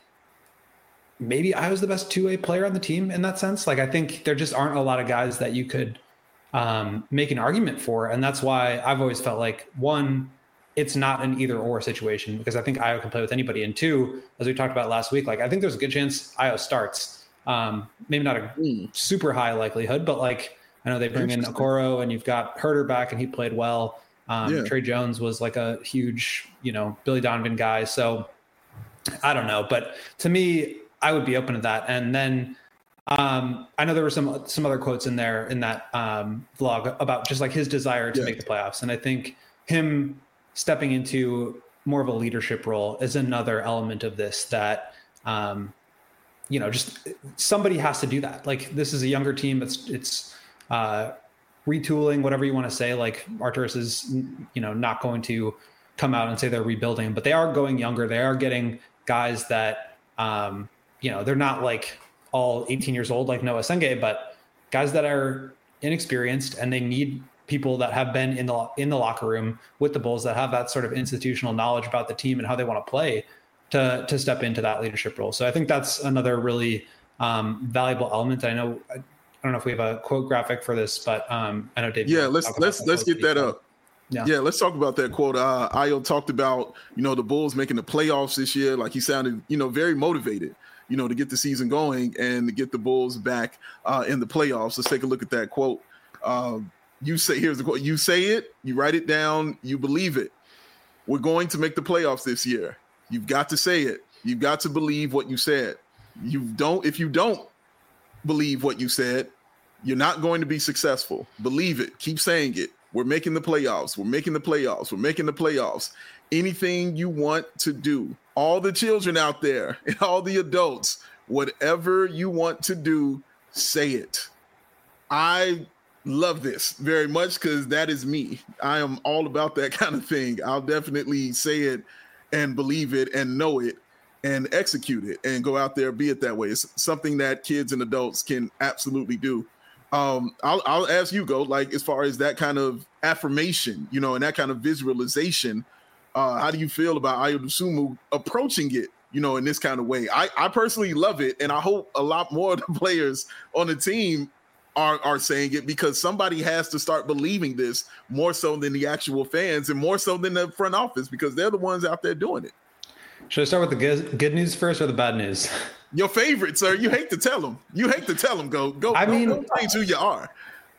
maybe I was the best two-way player on the team in that sense. Like, I think there just aren't a lot of guys that you could um, make an argument for. And that's why I've always felt like, one, it's not an either or situation, because I think Ayo can play with anybody. And two, as we talked about last week, like, I think there's a good chance Ayo starts. Um, maybe not a mm. super high likelihood, but like, I know they bring in Okoro and you've got Herter back and he played well. Um, yeah. Trey Jones was like a huge, you know, Billy Donovan guy. So I don't know, but to me, I would be open to that. And then um, I know there were some, some other quotes in there in that um, vlog about just like his desire to yeah. make the playoffs. And I think him stepping into more of a leadership role is another element of this that, um, you know, just somebody has to do that. Like, this is a younger team. It's, it's, uh, retooling, whatever you want to say. Like, Arturas is, you know, not going to come out and say they're rebuilding, but they are going younger. They are getting guys that, um, you know, they're not like all eighteen years old, like Noah Senge, but guys that are inexperienced, and they need people that have been in the, in the locker room with the Bulls, that have that sort of institutional knowledge about the team and how they want to play to, to step into that leadership role. So I think that's another really um, valuable element. I know, I don't know if we have a quote graphic for this, but um, I know Dave. Yeah, let's let's let's get that up. Yeah. yeah, let's talk about that quote. Uh, Ayo talked about, you know, the Bulls making the playoffs this year. Like, he sounded, you know, very motivated, you know, to get the season going and to get the Bulls back uh, in the playoffs. Let's take a look at that quote. Uh, you say, here's the quote. You say it, you write it down, you believe it. We're going to make the playoffs this year. You've got to say it. You've got to believe what you said. You don't, if you don't believe what you said, you're not going to be successful. Believe it. Keep saying it. We're making the playoffs. We're making the playoffs. We're making the playoffs. Anything you want to do, all the children out there and all the adults, whatever you want to do, say it. I love this very much because that is me. I am all about that kind of thing. I'll definitely say it and believe it and know it and execute it and go out there, be it that way. It's something that kids and adults can absolutely do. Um, I'll, I'll ask you, Go, like, as far as that kind of affirmation, you know, and that kind of visualization, uh, how do you feel about Ayo Dosunmu approaching it, you know, in this kind of way? I, I personally love it, and I hope a lot more of the players on the team are, are saying it, because somebody has to start believing this more so than the actual fans and more so than the front office, because they're the ones out there doing it. Should I start with the good, good news first or the bad news? Your favorite, sir. You hate to tell them. You hate to tell them. Go, go. I mean, go change who you are.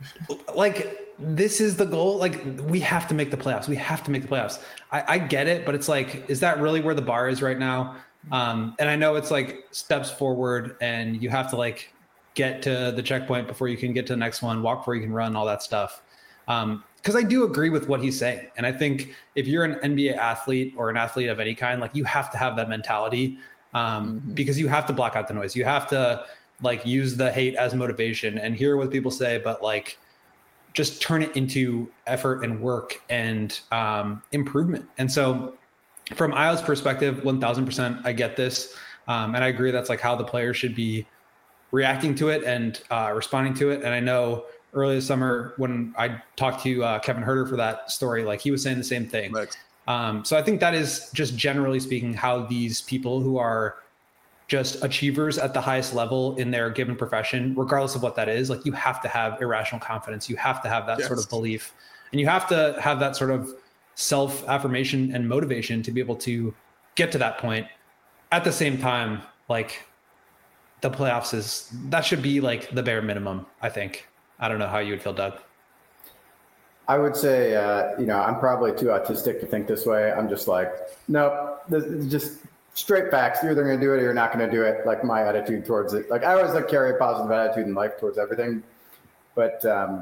Like, this is the goal. Like, we have to make the playoffs. We have to make the playoffs. I, I get it, but it's like, is that really where the bar is right now? Um, and I know it's like steps forward, and you have to like get to the checkpoint before you can get to the next one. Walk before you can run. All that stuff. Um, Because I do agree with what he's saying. And I think if you're an N B A athlete or an athlete of any kind, like, you have to have that mentality, um, mm-hmm. because you have to block out the noise. You have to like use the hate as motivation and hear what people say, but like just turn it into effort and work and um, improvement. And so from Ayo's perspective, one thousand percent, I get this. Um, and I agree that's like how the players should be reacting to it and uh, responding to it. And I know early this summer when I talked to uh, Kevin Herter for that story, like, he was saying the same thing. Um, so I think that is just generally speaking how these people who are just achievers at the highest level in their given profession, regardless of what that is, like, you have to have irrational confidence. You have to have that yes. sort of belief, and you have to have that sort of self-affirmation and motivation to be able to get to that point. At the same time, like, the playoffs is, that should be like the bare minimum, I think. I don't know how you would feel, Doug. I would say, uh, you know, I'm probably too autistic to think this way. I'm just like, nope, this, just straight facts. You're either going to do it or you're not going to do it. Like my attitude towards it. Like I always like carry a positive attitude in life towards everything. But um,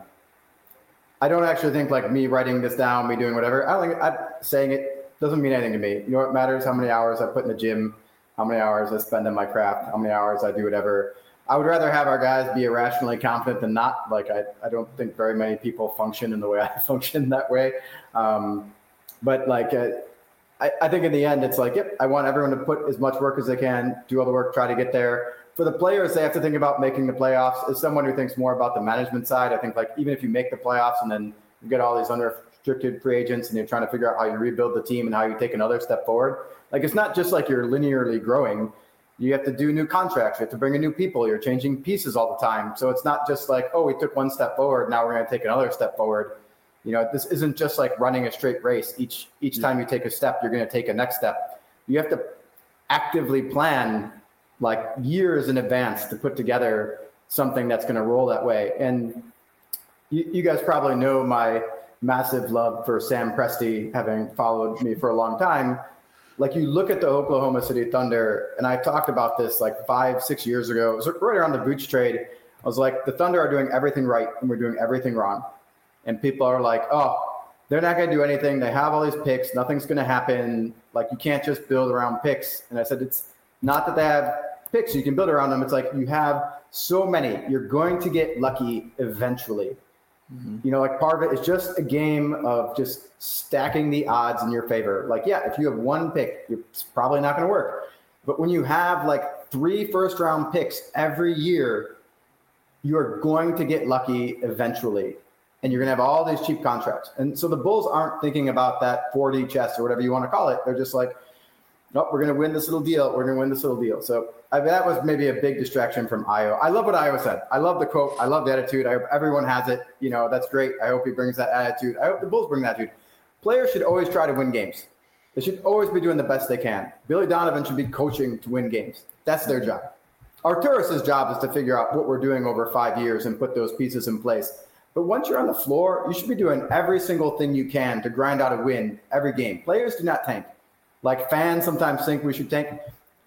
I don't actually think like me writing this down, me doing whatever. I don't think I'm saying it doesn't mean anything to me. You know what matters? How many hours I put in the gym, how many hours I spend on my craft, how many hours I do whatever. I would rather have our guys be irrationally confident than not. Like I, I don't think very many people function in the way I function that way. Um, but like, uh, I, I think in the end, it's like, yep, I want everyone to put as much work as they can, do all the work, try to get there. For the players, they have to think about making the playoffs. As someone who thinks more about the management side, I think like even if you make the playoffs and then you get all these unrestricted free agents and you're trying to figure out how you rebuild the team and how you take another step forward, like it's not just like you're linearly growing. You have to do new contracts. You have to bring in new people. You're changing pieces all the time. So it's not just like, oh, we took one step forward. Now we're going to take another step forward. You know, this isn't just like running a straight race. Each each time you take a step, you're going to take a next step. You have to actively plan like years in advance to put together something that's going to roll that way. And you, you guys probably know my massive love for Sam Presti, having followed me for a long time. Like you look at the Oklahoma City Thunder, and I talked about this like five, six years ago. It was right around the Vooch trade. I was like, the Thunder are doing everything right, and we're doing everything wrong. And people are like, oh, they're not going to do anything. They have all these picks. Nothing's going to happen. Like you can't just build around picks. And I said, it's not that they have picks. You can build around them. It's like you have so many. You're going to get lucky eventually. Mm-hmm. You know, like part of it is just a game of just stacking the odds in your favor. Like, yeah, if you have one pick, it's probably not going to work. But when you have like three first round picks every year, you're going to get lucky eventually. And you're going to have all these cheap contracts. And so the Bulls aren't thinking about that four D chess or whatever you want to call it. They're just like, nope, we're going to win this little deal. We're going to win this little deal. So I mean, that was maybe a big distraction from Ayo. I love what Ayo said. I love the quote. I love the attitude. I hope everyone has it. You know, that's great. I hope he brings that attitude. I hope the Bulls bring that attitude. Players should always try to win games. They should always be doing the best they can. Billy Donovan should be coaching to win games. That's their job. Arturas's job is to figure out what we're doing over five years and put those pieces in place. But once you're on the floor, you should be doing every single thing you can to grind out a win every game. Players do not tank. Like fans sometimes think we should tank.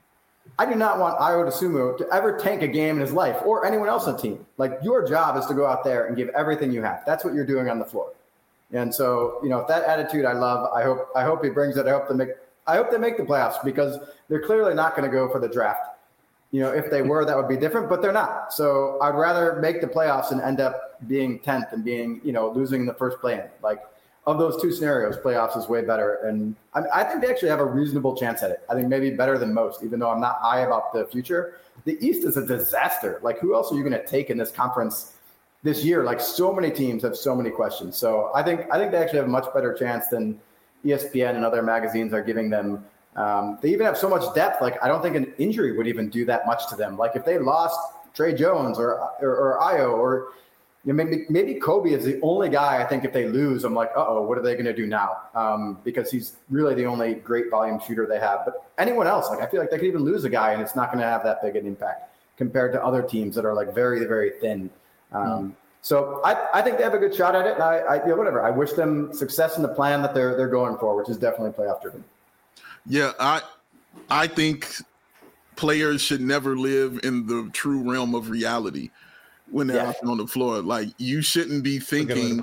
I do not want Ayo Dosunmu to ever tank a game in his life or anyone else on the team. Like your job is to go out there and give everything you have. That's what you're doing on the floor. And so, you know, that attitude I love. I hope I hope he brings it. I hope they make I hope they make the playoffs because they're clearly not going to go for the draft. You know, if they were, that would be different, but they're not. So I'd rather make the playoffs and end up being tenth and being, you know, losing in the first play-in. Like of those two scenarios, playoffs is way better. And I, I think they actually have a reasonable chance at it. I think maybe better than most, even though I'm not high about the future. The East is a disaster. Like who else are you going to take in this conference this year? Like so many teams have so many questions. So I think I think they actually have a much better chance than E S P N and other magazines are giving them. Um, they even have so much depth. Like, I don't think an injury would even do that much to them. Like, if they lost Trey Jones or or, or Ayo or you know, maybe maybe Kobe is the only guy I think if they lose, I'm like, uh-oh, what are they going to do now? Um, because he's really the only great volume shooter they have. But anyone else, like, I feel like they could even lose a guy and it's not going to have that big an impact compared to other teams that are, like, very, very thin. Um, mm. So I, I think they have a good shot at it. And I, I you know, whatever. I wish them success in the plan that they're they're going for, which is definitely playoff driven. Yeah, I I think players should never live in the true realm of reality when they're yeah. out on the floor. Like you shouldn't be thinking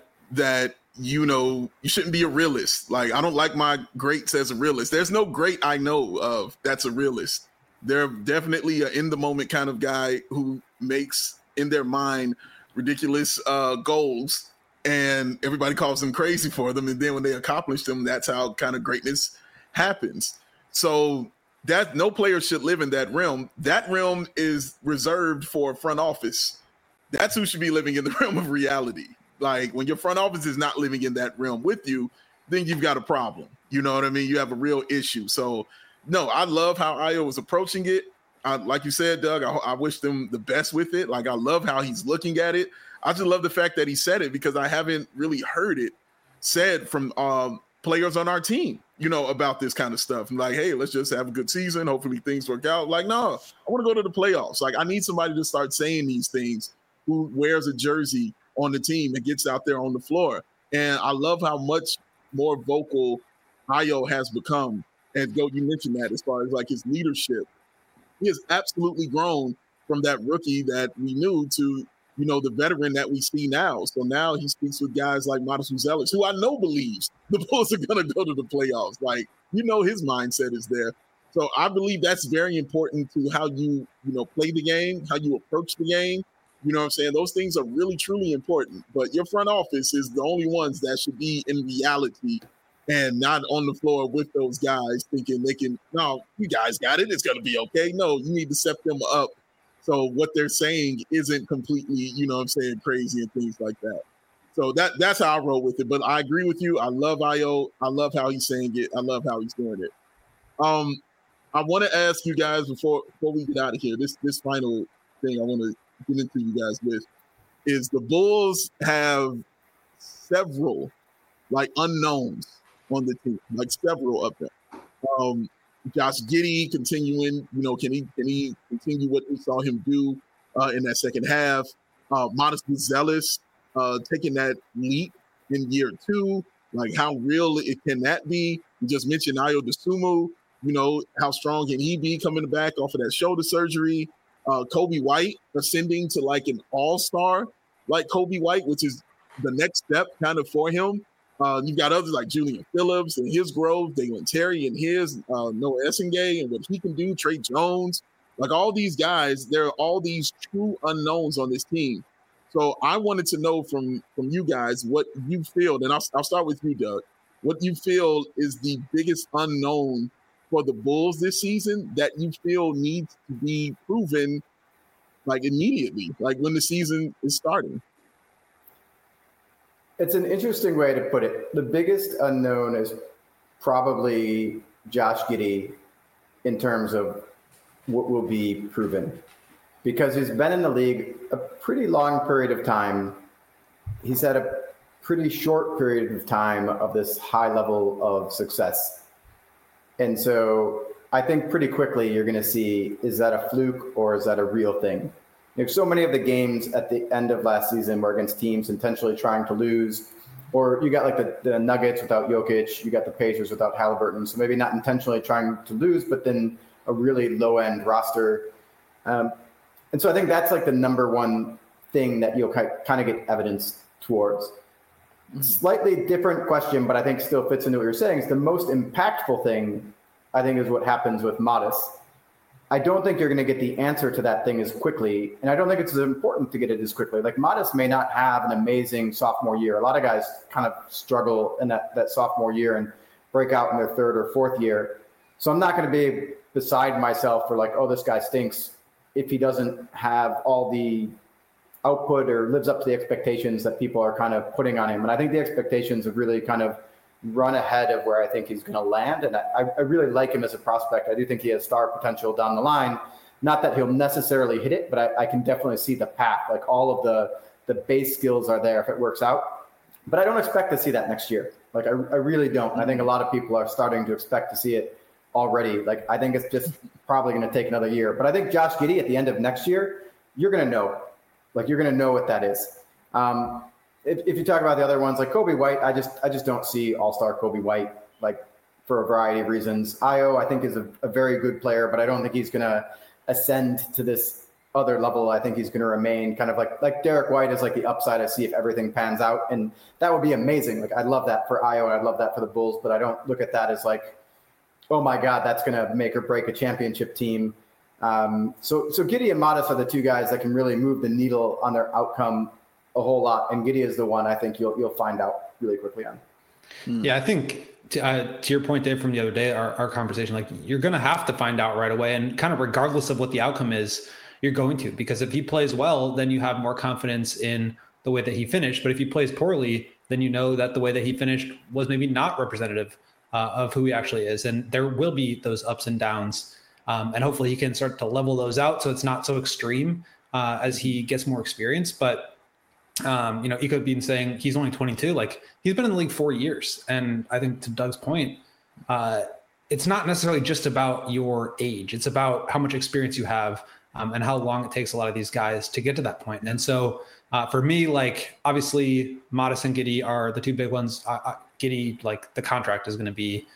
that, you know, you shouldn't be a realist. Like I don't like my greats as a realist. There's no great I know of that's a realist. They're definitely an in the moment kind of guy who makes in their mind ridiculous uh, goals and everybody calls them crazy for them. And then when they accomplish them, that's how kind of greatness happens. So that no player should live in that realm. That realm is reserved for front office. That's who should be living in the realm of reality. Like when your front office is not living in that realm with you, then you've got a problem. You know what I mean? You have a real issue. So no, I love how Ayo was approaching it. I, like you said, Doug, I, I wish them the best with it. Like I love how he's looking at it. I just love the fact that he said it because I haven't really heard it said from um, players on our team, you know, about this kind of stuff. I'm like, hey, let's just have a good season. Hopefully things work out. Like, no, I want to go to the playoffs. Like, I need somebody to start saying these things who wears a jersey on the team and gets out there on the floor. And I love how much more vocal Ayo has become And Goat, you mentioned that as far as like his leadership, he has absolutely grown from that rookie that we knew to, you know, the veteran that we see now. So now he speaks with guys like Modest Zealous, who I know believes the Bulls are going to go to the playoffs. Like, you know, his mindset is there. So I believe that's very important to how you, you know, play the game, how you approach the game. You know what I'm saying? Those things are really, truly important. But your front office is the only ones that should be in reality and not on the floor with those guys thinking they can, no, you guys got it. It's going to be okay. No, you need to set them up so what they're saying isn't completely, you know what I'm saying, crazy and things like that. So that that's how I roll with it. But I agree with you. I love Ayo. I love how he's saying it. I love how he's doing it. Um, I want to ask you guys before before we get out of here, this this final thing I want to get into you guys with is the Bulls have several like unknowns on the team, like several of them. Um, Josh Giddey continuing, you know, can he can he continue what we saw him do uh, in that second half? Uh, Modest Zealous uh, taking that leap in year two, like how real it can that be? You just mentioned Ayo Dosunmu, you know, how strong can he be coming back off of that shoulder surgery? Uh, Coby White ascending to like an all-star, like Coby White, which is the next step kind of for him. Uh, you've got others like Julian Phillips and his growth, Dalen Terry and his, uh, Noah Essengay and what he can do, Trey Jones. Like all these guys, there are all these true unknowns on this team. So I wanted to know from, from you guys what you feel, and I'll, I'll start with you, Doug, what you feel is the biggest unknown for the Bulls this season that you feel needs to be proven like immediately, like when the season is starting. It's an interesting way to put it. The biggest unknown is probably Josh Giddey in terms of what will be proven, because he's been in the league a pretty long period of time. He's had a pretty short period of time of this high level of success. And so I think pretty quickly you're going to see, is that a fluke or is that a real thing? There's so many of the games at the end of last season were against teams intentionally trying to lose, or you got like the, the Nuggets without Jokic, you got the Pacers without Halliburton. So maybe not intentionally trying to lose, but then a really low end roster. Um, and so I think that's like the number one thing that you'll kind of get evidence towards. Slightly different question, but I think still fits into what you're saying. Is the most impactful thing, I think, is what happens with Modest. I don't think you're going to get the answer to that thing as quickly. And I don't think it's as important to get it as quickly. Like Modest may not have an amazing sophomore year. A lot of guys kind of struggle in that, that sophomore year and break out in their third or fourth year. So I'm not going to be beside myself for like, oh, this guy stinks if he doesn't have all the output or lives up to the expectations that people are kind of putting on him. And I think the expectations have really kind of run ahead of where I think he's going to land. And I, I really like him as a prospect. I do think he has star potential down the line. Not that he'll necessarily hit it, but I, I can definitely see the path. Like all of the, the base skills are there if it works out. But I don't expect to see that next year. Like I, I really don't. And I think a lot of people are starting to expect to see it already. Like I think it's just probably going to take another year. But I think Josh Giddey at the end of next year, you're going to know. Like you're going to know what that is. Um, if, if you talk about the other ones, like Coby White, I just I just don't see all-star Coby White, like for a variety of reasons. Ayo, I think, is a, a very good player, but I don't think he's going to ascend to this other level. I think he's going to remain kind of like like Derek White is like the upside I see if everything pans out, and that would be amazing. Like I'd love that for Ayo, I'd love that for the Bulls, but I don't look at that as like, oh my God, that's going to make or break a championship team. Um, so, so Giddey and Modest are the two guys that can really move the needle on their outcome a whole lot. And Giddey is the one I think you'll, you'll find out really quickly on. Yeah. I think to, uh, to your point, Dave, from the other day, our, our conversation, like you're going to have to find out right away, and kind of regardless of what the outcome is, you're going to, because if he plays well, then you have more confidence in the way that he finished. But if he plays poorly, then you know that the way that he finished was maybe not representative uh, of who he actually is. And there will be those ups and downs. Um, and hopefully he can start to level those out so it's not so extreme uh, as he gets more experience. But, um, you know, Iko being saying he's only twenty-two, like he's been in the league four years. And I think to Doug's point, uh, it's not necessarily just about your age. It's about how much experience you have um, and how long it takes a lot of these guys to get to that point. And so uh, for me, like obviously Modest and Giddey are the two big ones. Uh, Giddey, like the contract is going to be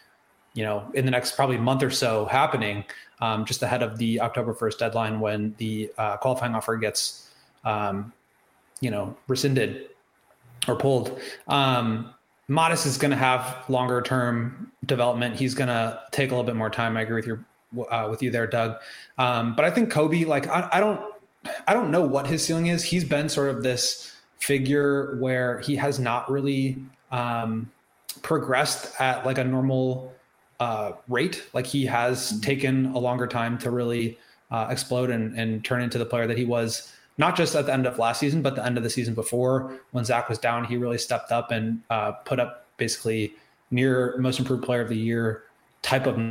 you know, in the next probably month or so happening, um, just ahead of the October first deadline when the uh, qualifying offer gets, um, you know, rescinded or pulled. Um, Modest is going to have longer term development. He's going to take a little bit more time. I agree with your uh, with you there, Doug. Um, but I think Coby, like I, I don't, I don't know what his ceiling is. He's been sort of this figure where he has not really um, progressed at like a normal uh, rate. Like he has mm-hmm. taken a longer time to really uh, explode and, and turn into the player that he was. Not just at the end of last season, but the end of the season before when Zach was down, he really stepped up and uh, put up basically near most improved player of the year type of.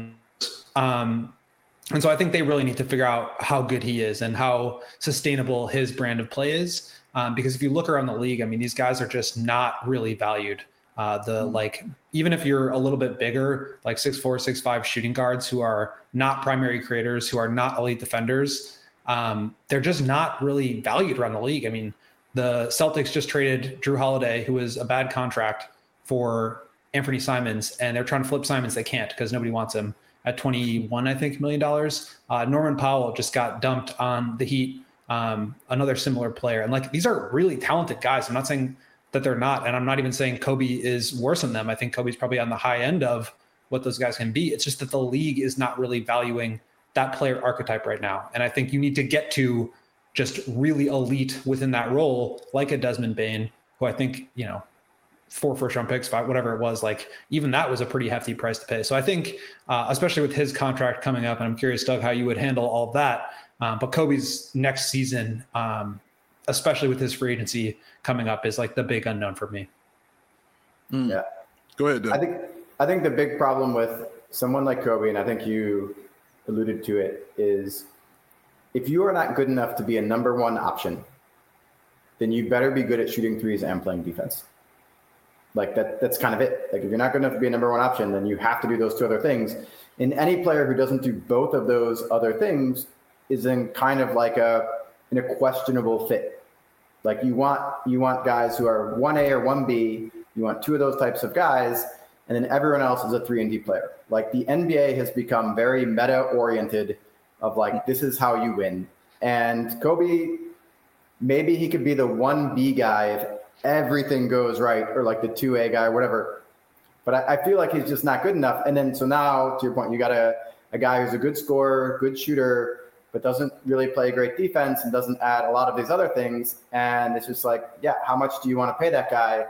Um, and so I think they really need to figure out how good he is and how sustainable his brand of play is. Um, because if you look around the league, I mean, these guys are just not really valued. Uh, the like, even if you're a little bit bigger, like six four, six five shooting guards who are not primary creators, who are not elite defenders, Um, they're just not really valued around the league. I mean, the Celtics just traded Drew Holiday, who was a bad contract, for Anthony Simons, and they're trying to flip Simons. They can't because nobody wants him at twenty-one, I think, million dollars. Uh, Norman Powell just got dumped on the Heat, um, another similar player. And like, these are really talented guys. I'm not saying that they're not, and I'm not even saying Coby is worse than them. I think Coby's probably on the high end of what those guys can be. It's just that the league is not really valuing that player archetype right now. And I think you need to get to just really elite within that role, like a Desmond Bane, who I think, you know, four first round picks, five, whatever it was, like even that was a pretty hefty price to pay. So I think, uh, especially with his contract coming up, and I'm curious, Doug, how you would handle all of that. Um, but Coby's next season, um, especially with his free agency coming up, is like the big unknown for me. Mm. Yeah. Go ahead, Doug. I think, I think the big problem with someone like Coby, and I think you alluded to it, is if you are not good enough to be a number one option, then you better be good at shooting threes and playing defense. Like that, that's kind of it. Like if you're not good enough to be a number one option, then you have to do those two other things. And any player who doesn't do both of those other things is in kind of like a, in a questionable fit. Like you want, you want guys who are one A or one B, you want two of those types of guys, and then everyone else is a three and D player. Like the N B A has become very meta-oriented of like, this is how you win. And Coby, maybe he could be the one B guy if everything goes right, or like the two A guy or whatever. But I, I feel like he's just not good enough. And then, so now to your point, you got a, a guy who's a good scorer, good shooter, but doesn't really play great defense and doesn't add a lot of these other things. And it's just like, yeah, how much do you want to pay that guy?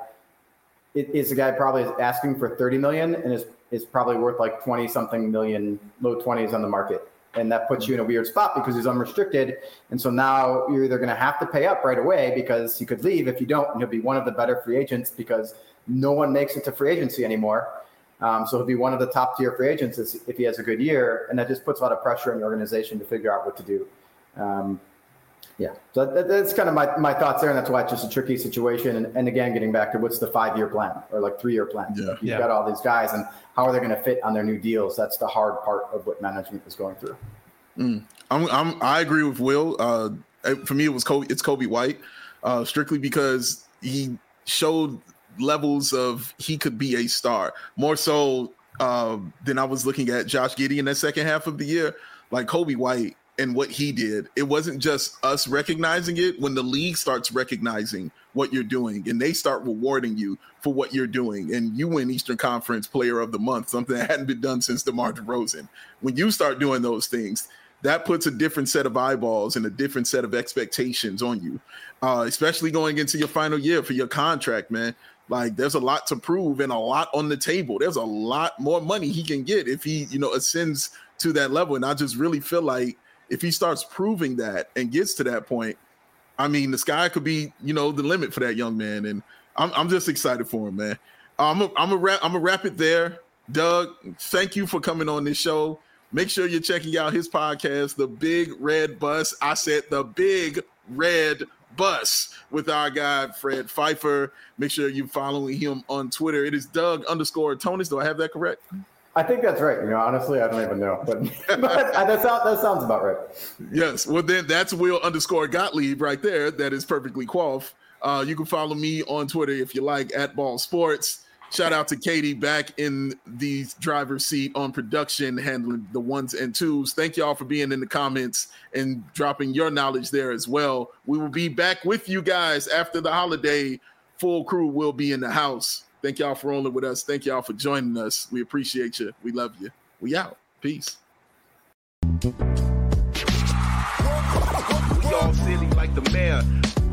It, is the guy probably asking for thirty million and is, is probably worth like twenty something million, low twenties on the market. And that puts you in a weird spot because he's unrestricted. And so now you're either going to have to pay up right away because he could leave. If you don't, and he'll be one of the better free agents because no one makes it to free agency anymore. Um, so he'll be one of the top tier free agents if he has a good year. And that just puts a lot of pressure on the organization to figure out what to do. Um, Yeah, so that, that's kind of my, my thoughts there, and that's why it's just a tricky situation. And, and again, getting back to what's the five-year plan or like three-year plan? Yeah. Like you've yeah. got all these guys, and how are they going to fit on their new deals? That's the hard part of what management is going through. Mm. I'm, I'm, I agree with Will. Uh, for me, it was Coby, it's Coby White, uh, strictly because he showed levels of he could be a star more so uh, than I was looking at Josh Giddey in that second half of the year. Like Coby White. And what he did, it wasn't just us recognizing it. When the league starts recognizing what you're doing and they start rewarding you for what you're doing, and you win Eastern Conference Player of the Month, something that hadn't been done since DeMar DeRozan. When you start doing those things, that puts a different set of eyeballs and a different set of expectations on you, uh, especially going into your final year for your contract, man. Like there's a lot to prove and a lot on the table. There's a lot more money he can get if he, you know, ascends to that level. And I just really feel like if he starts proving that and gets to that point, I mean, the sky could be, you know, the limit for that young man. And I'm, I'm just excited for him, man. I'm a, I'm a wrap, I'm a wrap it there. Doug, thank you for coming on this show. Make sure you're checking out his podcast, The Big Red Bus. I said The Big Red Bus with our guy, Fred Pfeiffer. Make sure you're following him on Twitter. It is Doug underscore Tonis. Do I have that correct? I think that's right. You know, honestly, I don't even know, but, but that, sound, that sounds about right. Yes. Well, then that's Will underscore Gottlieb right there. That is perfectly quaff. Uh, you can follow me on Twitter if you like, at Ball Sports. Shout out to Katie back in the driver's seat on production, handling the ones and twos. Thank y'all for being in the comments and dropping your knowledge there as well. We will be back with you guys after the holiday. Full crew will be in the house. Thank y'all for rolling with us. Thank y'all for joining us. We appreciate you. We love you. We out. Peace. We all silly like the mayor.